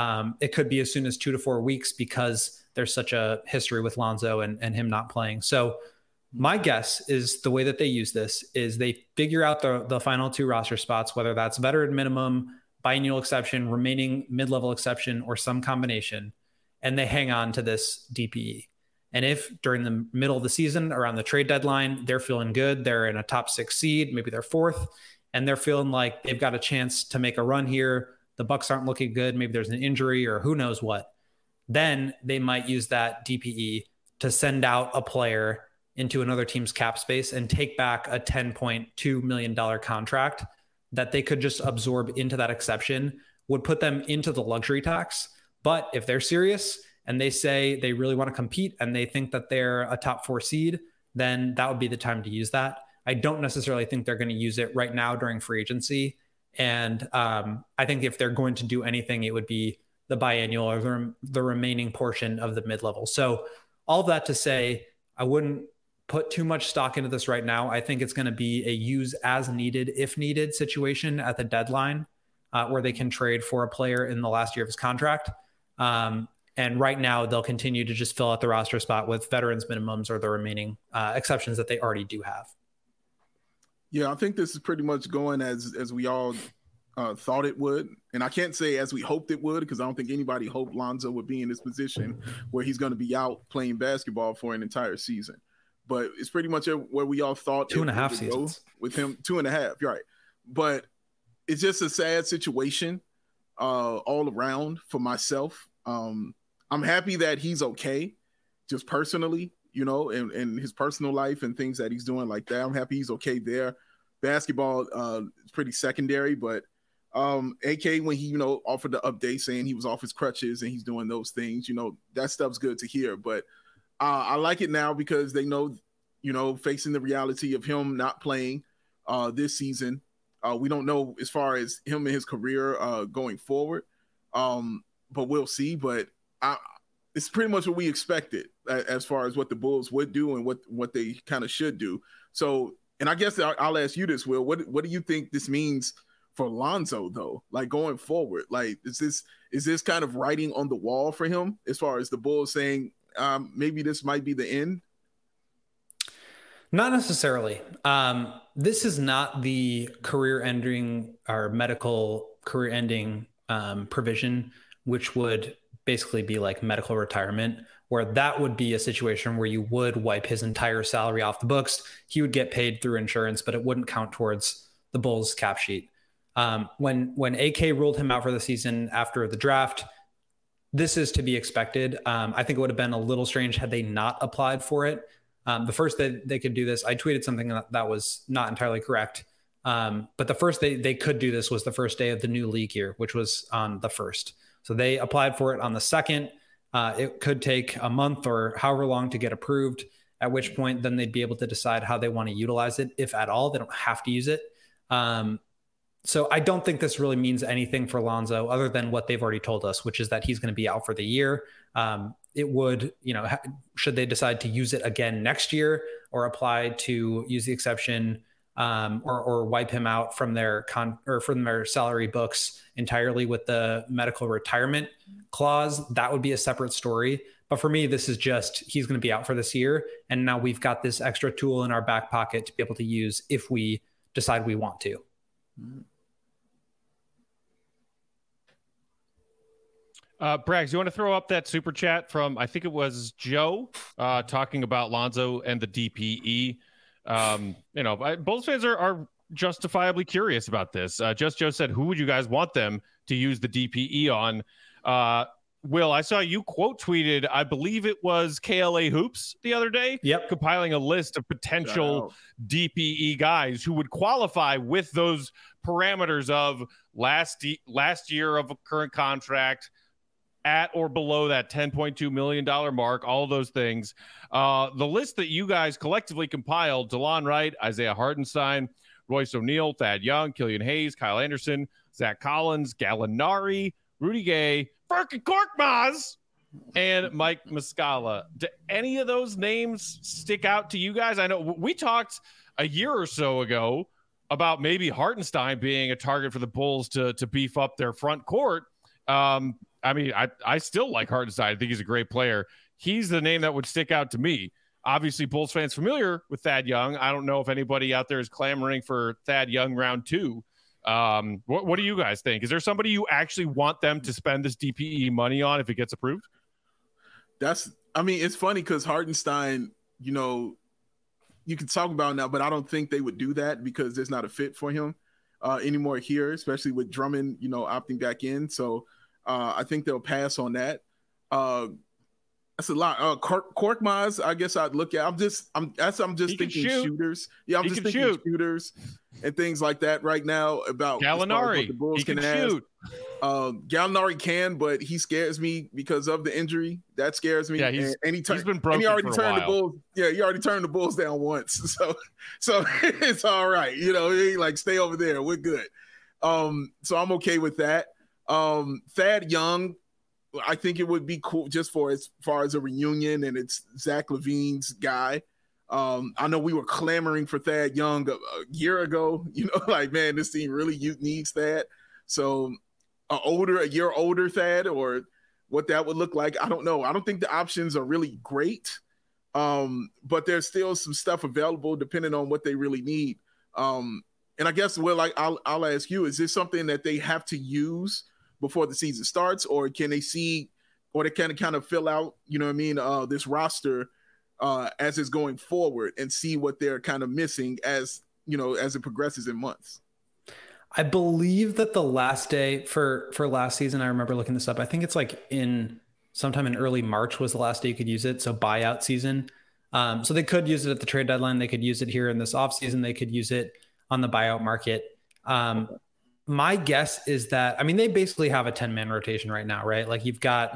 it could be as soon as 2 to 4 weeks because there's such a history with Lonzo and him not playing. So my guess is the way that they use this is they figure out the final 2 roster spots, whether that's veteran minimum, biannual exception, remaining mid-level exception, or some combination, and they hang on to this DPE. And if during the middle of the season, around the trade deadline, they're feeling good, they're in a top 6 seed, maybe they're 4th, and they're feeling like they've got a chance to make a run here, the Bucks aren't looking good, maybe there's an injury or who knows what, then they might use that DPE to send out a player into another team's cap space and take back a $10.2 million contract that they could just absorb into that exception, would put them into the luxury tax. But if they're serious and they say they really want to compete and they think that they're a top 4 seed, then that would be the time to use that. I don't necessarily think they're going to use it right now during free agency. And I think if they're going to do anything, it would be the biannual or the remaining portion of the mid-level. So all of that to say, I wouldn't put too much stock into this right now. I think it's going to be a use as needed, if needed situation at the deadline where they can trade for a player in the last year of his contract. And right now they'll continue to just fill out the roster spot with veterans minimums or the remaining exceptions that they already do have. Yeah, I think this is pretty much going as we all thought it would. And I can't say as we hoped it would, because I don't think anybody hoped Lonzo would be in this position where he's going to be out playing basketball for an entire season. But it's pretty much where we all thought 2.5 seasons with him. 2.5, you're right. But it's just a sad situation all around for myself. I'm happy that he's okay, just personally, and his personal life and things that he's doing like that. I'm happy he's okay there. Basketball is pretty secondary, but AK, when he, offered the update saying he was off his crutches and he's doing those things, that stuff's good to hear. But I like it now because they know, facing the reality of him not playing this season. We don't know as far as him and his career going forward, but we'll see. But it's pretty much what we expected as far as what the Bulls would do and what they kind of should do. So, and I guess I'll ask you this, Will. What do you think this means for Lonzo, though? Like, going forward, like, is this kind of writing on the wall for him as far as the Bulls saying maybe this might be the end? Not necessarily. This is not the career-ending or medical career-ending provision, which would basically be like medical retirement, where that would be a situation where you would wipe his entire salary off the books. He would get paid through insurance, but it wouldn't count towards the Bulls cap sheet. When AK ruled him out for the season after the draft, this is to be expected. I think it would have been a little strange had they not applied for it. The first that they could do this, I tweeted something that was not entirely correct. But the first they could do this was the first day of the new league year, which was on the 1st. So they applied for it on the 2nd. It could take a month or however long to get approved, at which point then they'd be able to decide how they want to utilize it, if at all. They don't have to use it. So I don't think this really means anything for Lonzo other than what they've already told us, which is that he's going to be out for the year. It would, should they decide to use it again next year or apply to use the exception or wipe him out from their from their salary books entirely with the medical retirement clause, that would be a separate story. But for me, this is just, he's going to be out for this year. And now we've got this extra tool in our back pocket to be able to use if we decide we want to. Braggs, you want to throw up that super chat from, I think it was Joe, talking about Lonzo and the DPE. Bulls fans are justifiably curious about this. Just Joe said, who would you guys want them to use the DPE on? Will, I saw you quote tweeted, I believe it was KLA Hoops the other day, compiling a list of potential DPE guys who would qualify with those parameters of last year of a current contract, at or below that $10.2 million mark, all of those things. The list that you guys collectively compiled, DeLon Wright, Isaiah Hartenstein, Royce O'Neal, Thad Young, Killian Hayes, Kyle Anderson, Zach Collins, Gallinari, Rudy Gay, Furkan Korkmaz, and Mike Muscala. Do any of those names stick out to you guys? I know we talked a year or so ago about maybe Hartenstein being a target for the Bulls to beef up their front court. I still like Hartenstein. I think he's a great player. He's the name that would stick out to me. Obviously, Bulls fans familiar with Thad Young. I don't know if anybody out there is clamoring for Thad Young round 2. What do you guys think? Is there somebody you actually want them to spend this DPE money on if it gets approved? It's funny because Hartenstein, you can talk about now, but I don't think they would do that because there's not a fit for him anymore here, especially with Drummond, opting back in. So I think they'll pass on that. That's a lot. Korkmaz, I guess I'd look at. I'm just thinking shooters. Yeah, I'm just thinking shooters and things like that right now about Gallinari. The Bulls can shoot. Gallinari can, but he scares me because of the injury. That scares me. Yeah, he's been broken. And he already for a turned while. the Bulls. Yeah, he already turned the Bulls down once. So it's all right. He like stay over there. We're good. So I'm okay with that. Thad Young, I think it would be cool just for as far as a reunion, and it's Zach LaVine's guy. I know we were clamoring for Thad Young a year ago, like, man, this team really needs Thad. So a year older Thad, or what that would look like, I don't know. I don't think the options are really great, but there's still some stuff available depending on what they really need. And I guess, Will, I'll ask you, is this something that they have to use before the season starts, or can they see, or they can kind of fill out, this roster as it's going forward and see what they're kind of missing as it progresses in months? I believe that the last day for last season, I remember looking this up, I think it's like sometime in early March was the last day you could use it. So buyout season. So they could use it at the trade deadline. They could use it here in this offseason. They could use it on the buyout market. my guess is that, I mean, they basically have a 10-man rotation right now, right? Like you've got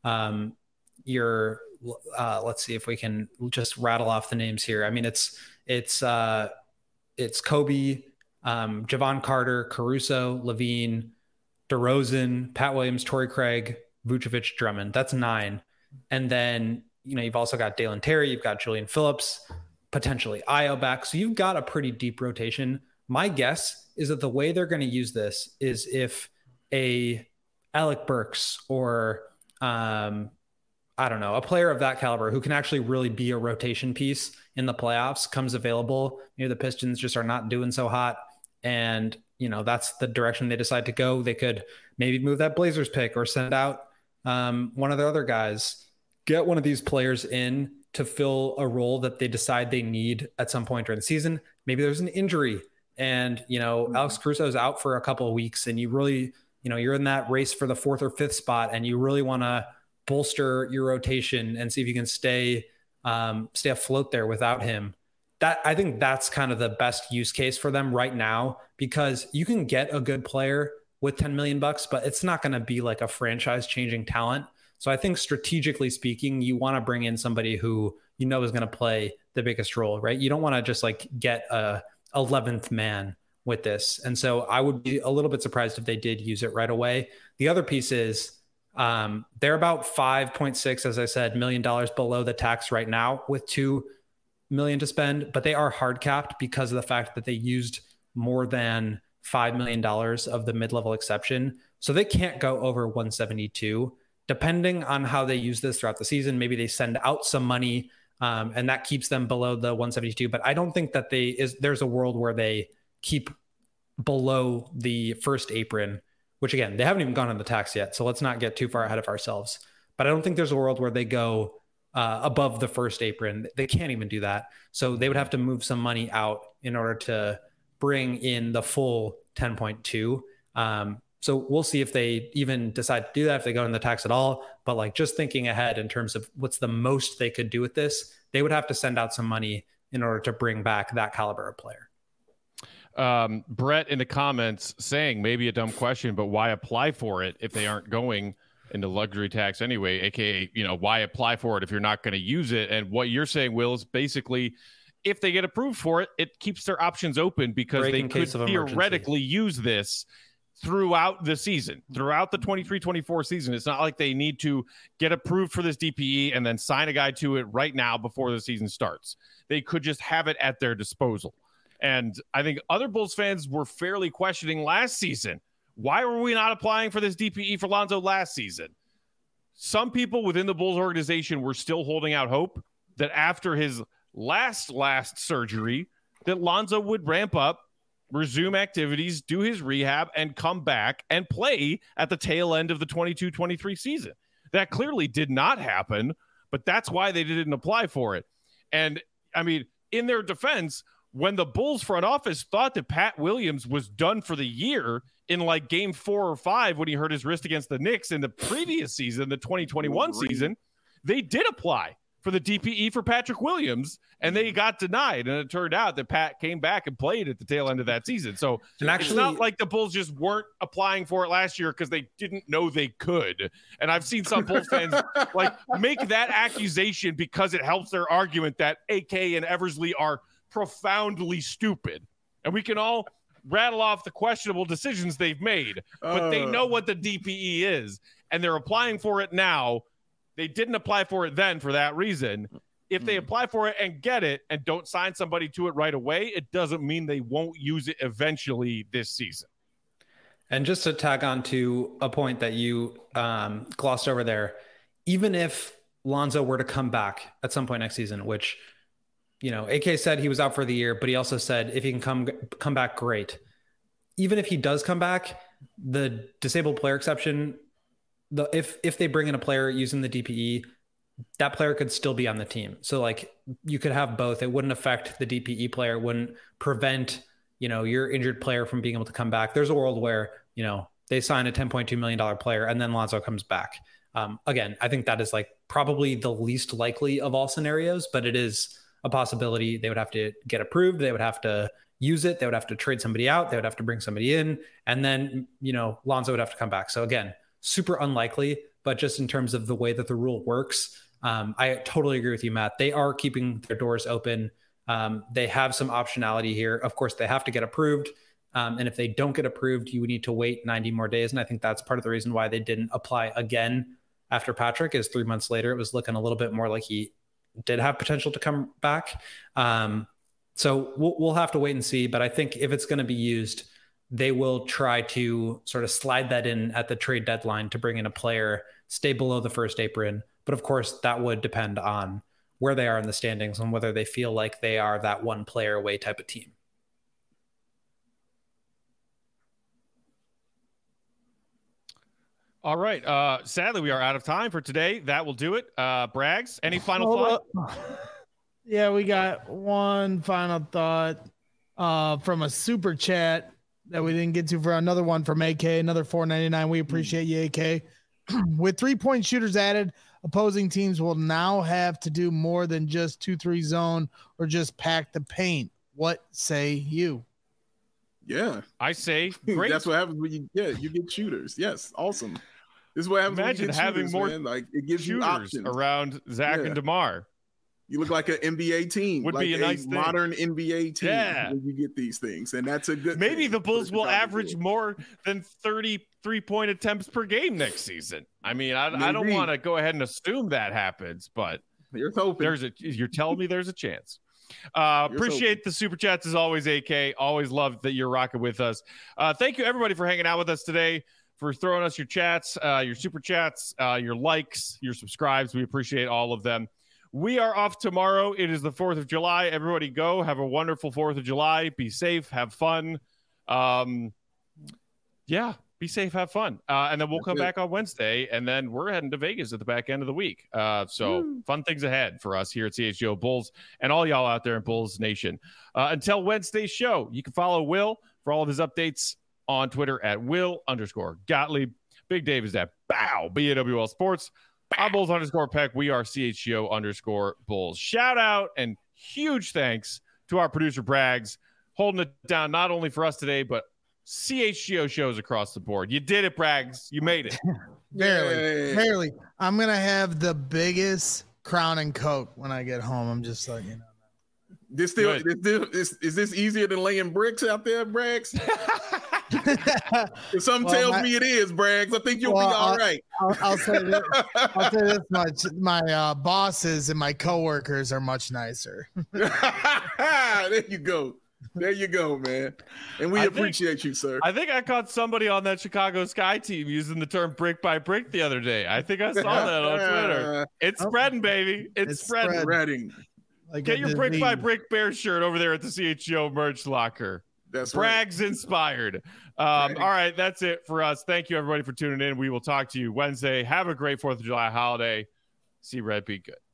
let's see if we can just rattle off the names here. I mean, it's Kobe, Javon Carter, Caruso, Levine, DeRozan, Pat Williams, Torrey Craig, Vucevic, Drummond. That's 9. And then, you've also got Dalen Terry, you've got Julian Phillips, potentially Ayo back. So you've got a pretty deep rotation. My guess is that the way they're going to use this is if a Alec Burks or I don't know, a player of that caliber who can actually really be a rotation piece in the playoffs comes available. The Pistons just are not doing so hot. And, that's the direction they decide to go. They could maybe move that Blazers pick or send out one of the other guys, get one of these players in to fill a role that they decide they need at some point during the season. Maybe there's an injury and, Alex Caruso is out for a couple of weeks and you really, you're in that race for the 4th or 5th spot and you really want to bolster your rotation and see if you can stay afloat there without him. I think that's kind of the best use case for them right now, because you can get a good player with $10 million, but it's not going to be like a franchise changing talent. So I think strategically speaking, you want to bring in somebody who is going to play the biggest role, right? You don't want to just like get a 11th man with this. And so I would be a little bit surprised if they did use it right away. The other piece is they're about 5.6, as I said, $1 million below the tax right now with $2 million to spend, but they are hard capped because of the fact that they used more than $5 million of the mid-level exception. So they can't go over 172. Depending on how they use this throughout the season, maybe they send out some money and that keeps them below the 172. But I don't think that there's a world where they keep below the first apron, which again, they haven't even gone on the tax yet. So let's not get too far ahead of ourselves. But I don't think there's a world where they go above the first apron. They can't even do that. So they would have to move some money out in order to bring in the full 10.2. So we'll see if they even decide to do that, if they go in the tax at all. But like just thinking ahead in terms of what's the most they could do with this, they would have to send out some money in order to bring back that caliber of player. Brett in the comments saying maybe a dumb question, but why apply for it if they aren't going into luxury tax anyway? AKA, why apply for it if you're not going to use it? And what you're saying, Will, is basically if they get approved for it, it keeps their options open because they could theoretically use this throughout the season, throughout the 23-24 season. It's not like they need to get approved for this DPE and then sign a guy to it right now before the season starts. They could just have it at their disposal. And I think other Bulls fans were fairly questioning last season. Why were we not applying for this DPE for Lonzo last season? Some people within the Bulls organization were still holding out hope that after his last surgery, that Lonzo would ramp up, resume activities, do his rehab, and come back and play at the tail end of the 22-23 season. That clearly did not happen, but that's why they didn't apply for it. And, I mean, in their defense, when the Bulls front office thought that Pat Williams was done for the year in like game 4 or 5 when he hurt his wrist against the Knicks in the previous season, the 2021 season, they did apply for the DPE for Patrick Williams, and they got denied. And it turned out that Pat came back and played at the tail end of that season. So it's not like the Bulls just weren't applying for it last year because they didn't know they could. And I've seen some Bulls fans like make that accusation because it helps their argument that AK and Eversley are profoundly stupid. And we can all rattle off the questionable decisions they've made, but they know what the DPE is, and they're applying for it now. They didn't apply for it then for that reason. If they apply for it and get it and don't sign somebody to it right away, it doesn't mean they won't use it eventually this season. And just to tag on to a point that you glossed over there, even if Lonzo were to come back at some point next season, which, AK said he was out for the year, but he also said if he can come back, great. Even if he does come back, the disabled player exception, if they bring in a player using the DPE, that player could still be on the team. So like you could have both. It wouldn't affect the DPE player, wouldn't prevent, your injured player from being able to come back. There's a world where, they sign a $10.2 million player and then Lonzo comes back. Again, I think that is like probably the least likely of all scenarios, but it is a possibility. They would have to get approved. They would have to, use it. They would have to trade somebody out. They would have to bring somebody in. And then, Lonzo would have to come back. So again, super unlikely, but just in terms of the way that the rule works, I totally agree with you, Matt. They are keeping their doors open. They have some optionality here. Of course, they have to get approved. And if they don't get approved, you would need to wait 90 more days. And I think that's part of the reason why they didn't apply again after Patrick, is 3 months later, it was looking a little bit more like he did have potential to come back. So we'll have to wait and see. But I think if it's going to be used, they will try to sort of slide that in at the trade deadline to bring in a player, stay below the first apron. But of course, that would depend on where they are in the standings and whether they feel like they are that one player away type of team. All right. Sadly, we are out of time for today. That will do it. Braggs, any final thought? Yeah, we got one final thought from a super chat that we didn't get to, for another one from AK, another $4.99. We appreciate you, AK. With 3-point shooters added, opposing teams will now have to do more than just 2-3 zone or just pack the paint. What say you? Yeah, I say great. That's what happens when you get shooters. Yes, awesome. This is what happens. Imagine when you get having shooters, more man. Like, it gives you shooters options around Zach and DeMar. You look like an NBA team. Would like be a nice thing. Modern NBA team. Yeah. When you get these things, and that's a good. Maybe thing. the Bulls will average more than 33-point attempts per game next season. I mean, I don't want to go ahead and assume that happens, but you're hoping. You're telling me there's a chance. Appreciate the super chats as always, AK. Always love that you're rocking with us. Thank you everybody for hanging out with us today, for throwing us your chats, your super chats, your likes, your subscribes. We appreciate all of them. We are off tomorrow. It is the 4th of July. Everybody go. Have a wonderful 4th of July. Be safe. Have fun. Yeah, be safe. Have fun. And then we'll come back on Wednesday, and then we're heading to Vegas at the back end of the week. Fun things ahead for us here at CHGO Bulls and all y'all out there in Bulls Nation. Until Wednesday's show, you can follow Will for all of his updates on Twitter at Will_Gottlieb. Big Dave is at BAWL Sports. I'm Bulls_Peck. We are CHGO_Bulls. Shout out and huge thanks to our producer Braggs, holding it down not only for us today, but CHGO shows across the board. You did it, Braggs. You made it. Barely. I'm going to have the biggest Crown and Coke when I get home. I'm just like, Is this easier than laying bricks out there, Braggs? Something tells me it is, Braggs. I think you'll be all right. I'll say this much. My bosses and my coworkers are much nicer. There you go, man. And we appreciate you, sir. I think I caught somebody on that Chicago Sky team using the term brick by brick the other day. I think I saw that on Twitter. It's spreading, baby. It's spreading. Like get your brick by brick Bears shirt over there at the CHGO merch locker. That's Braggs inspired. All right, that's it for us. Thank you, everybody, for tuning in. We will talk to you Wednesday. Have a great 4th of July holiday. See Red, be good.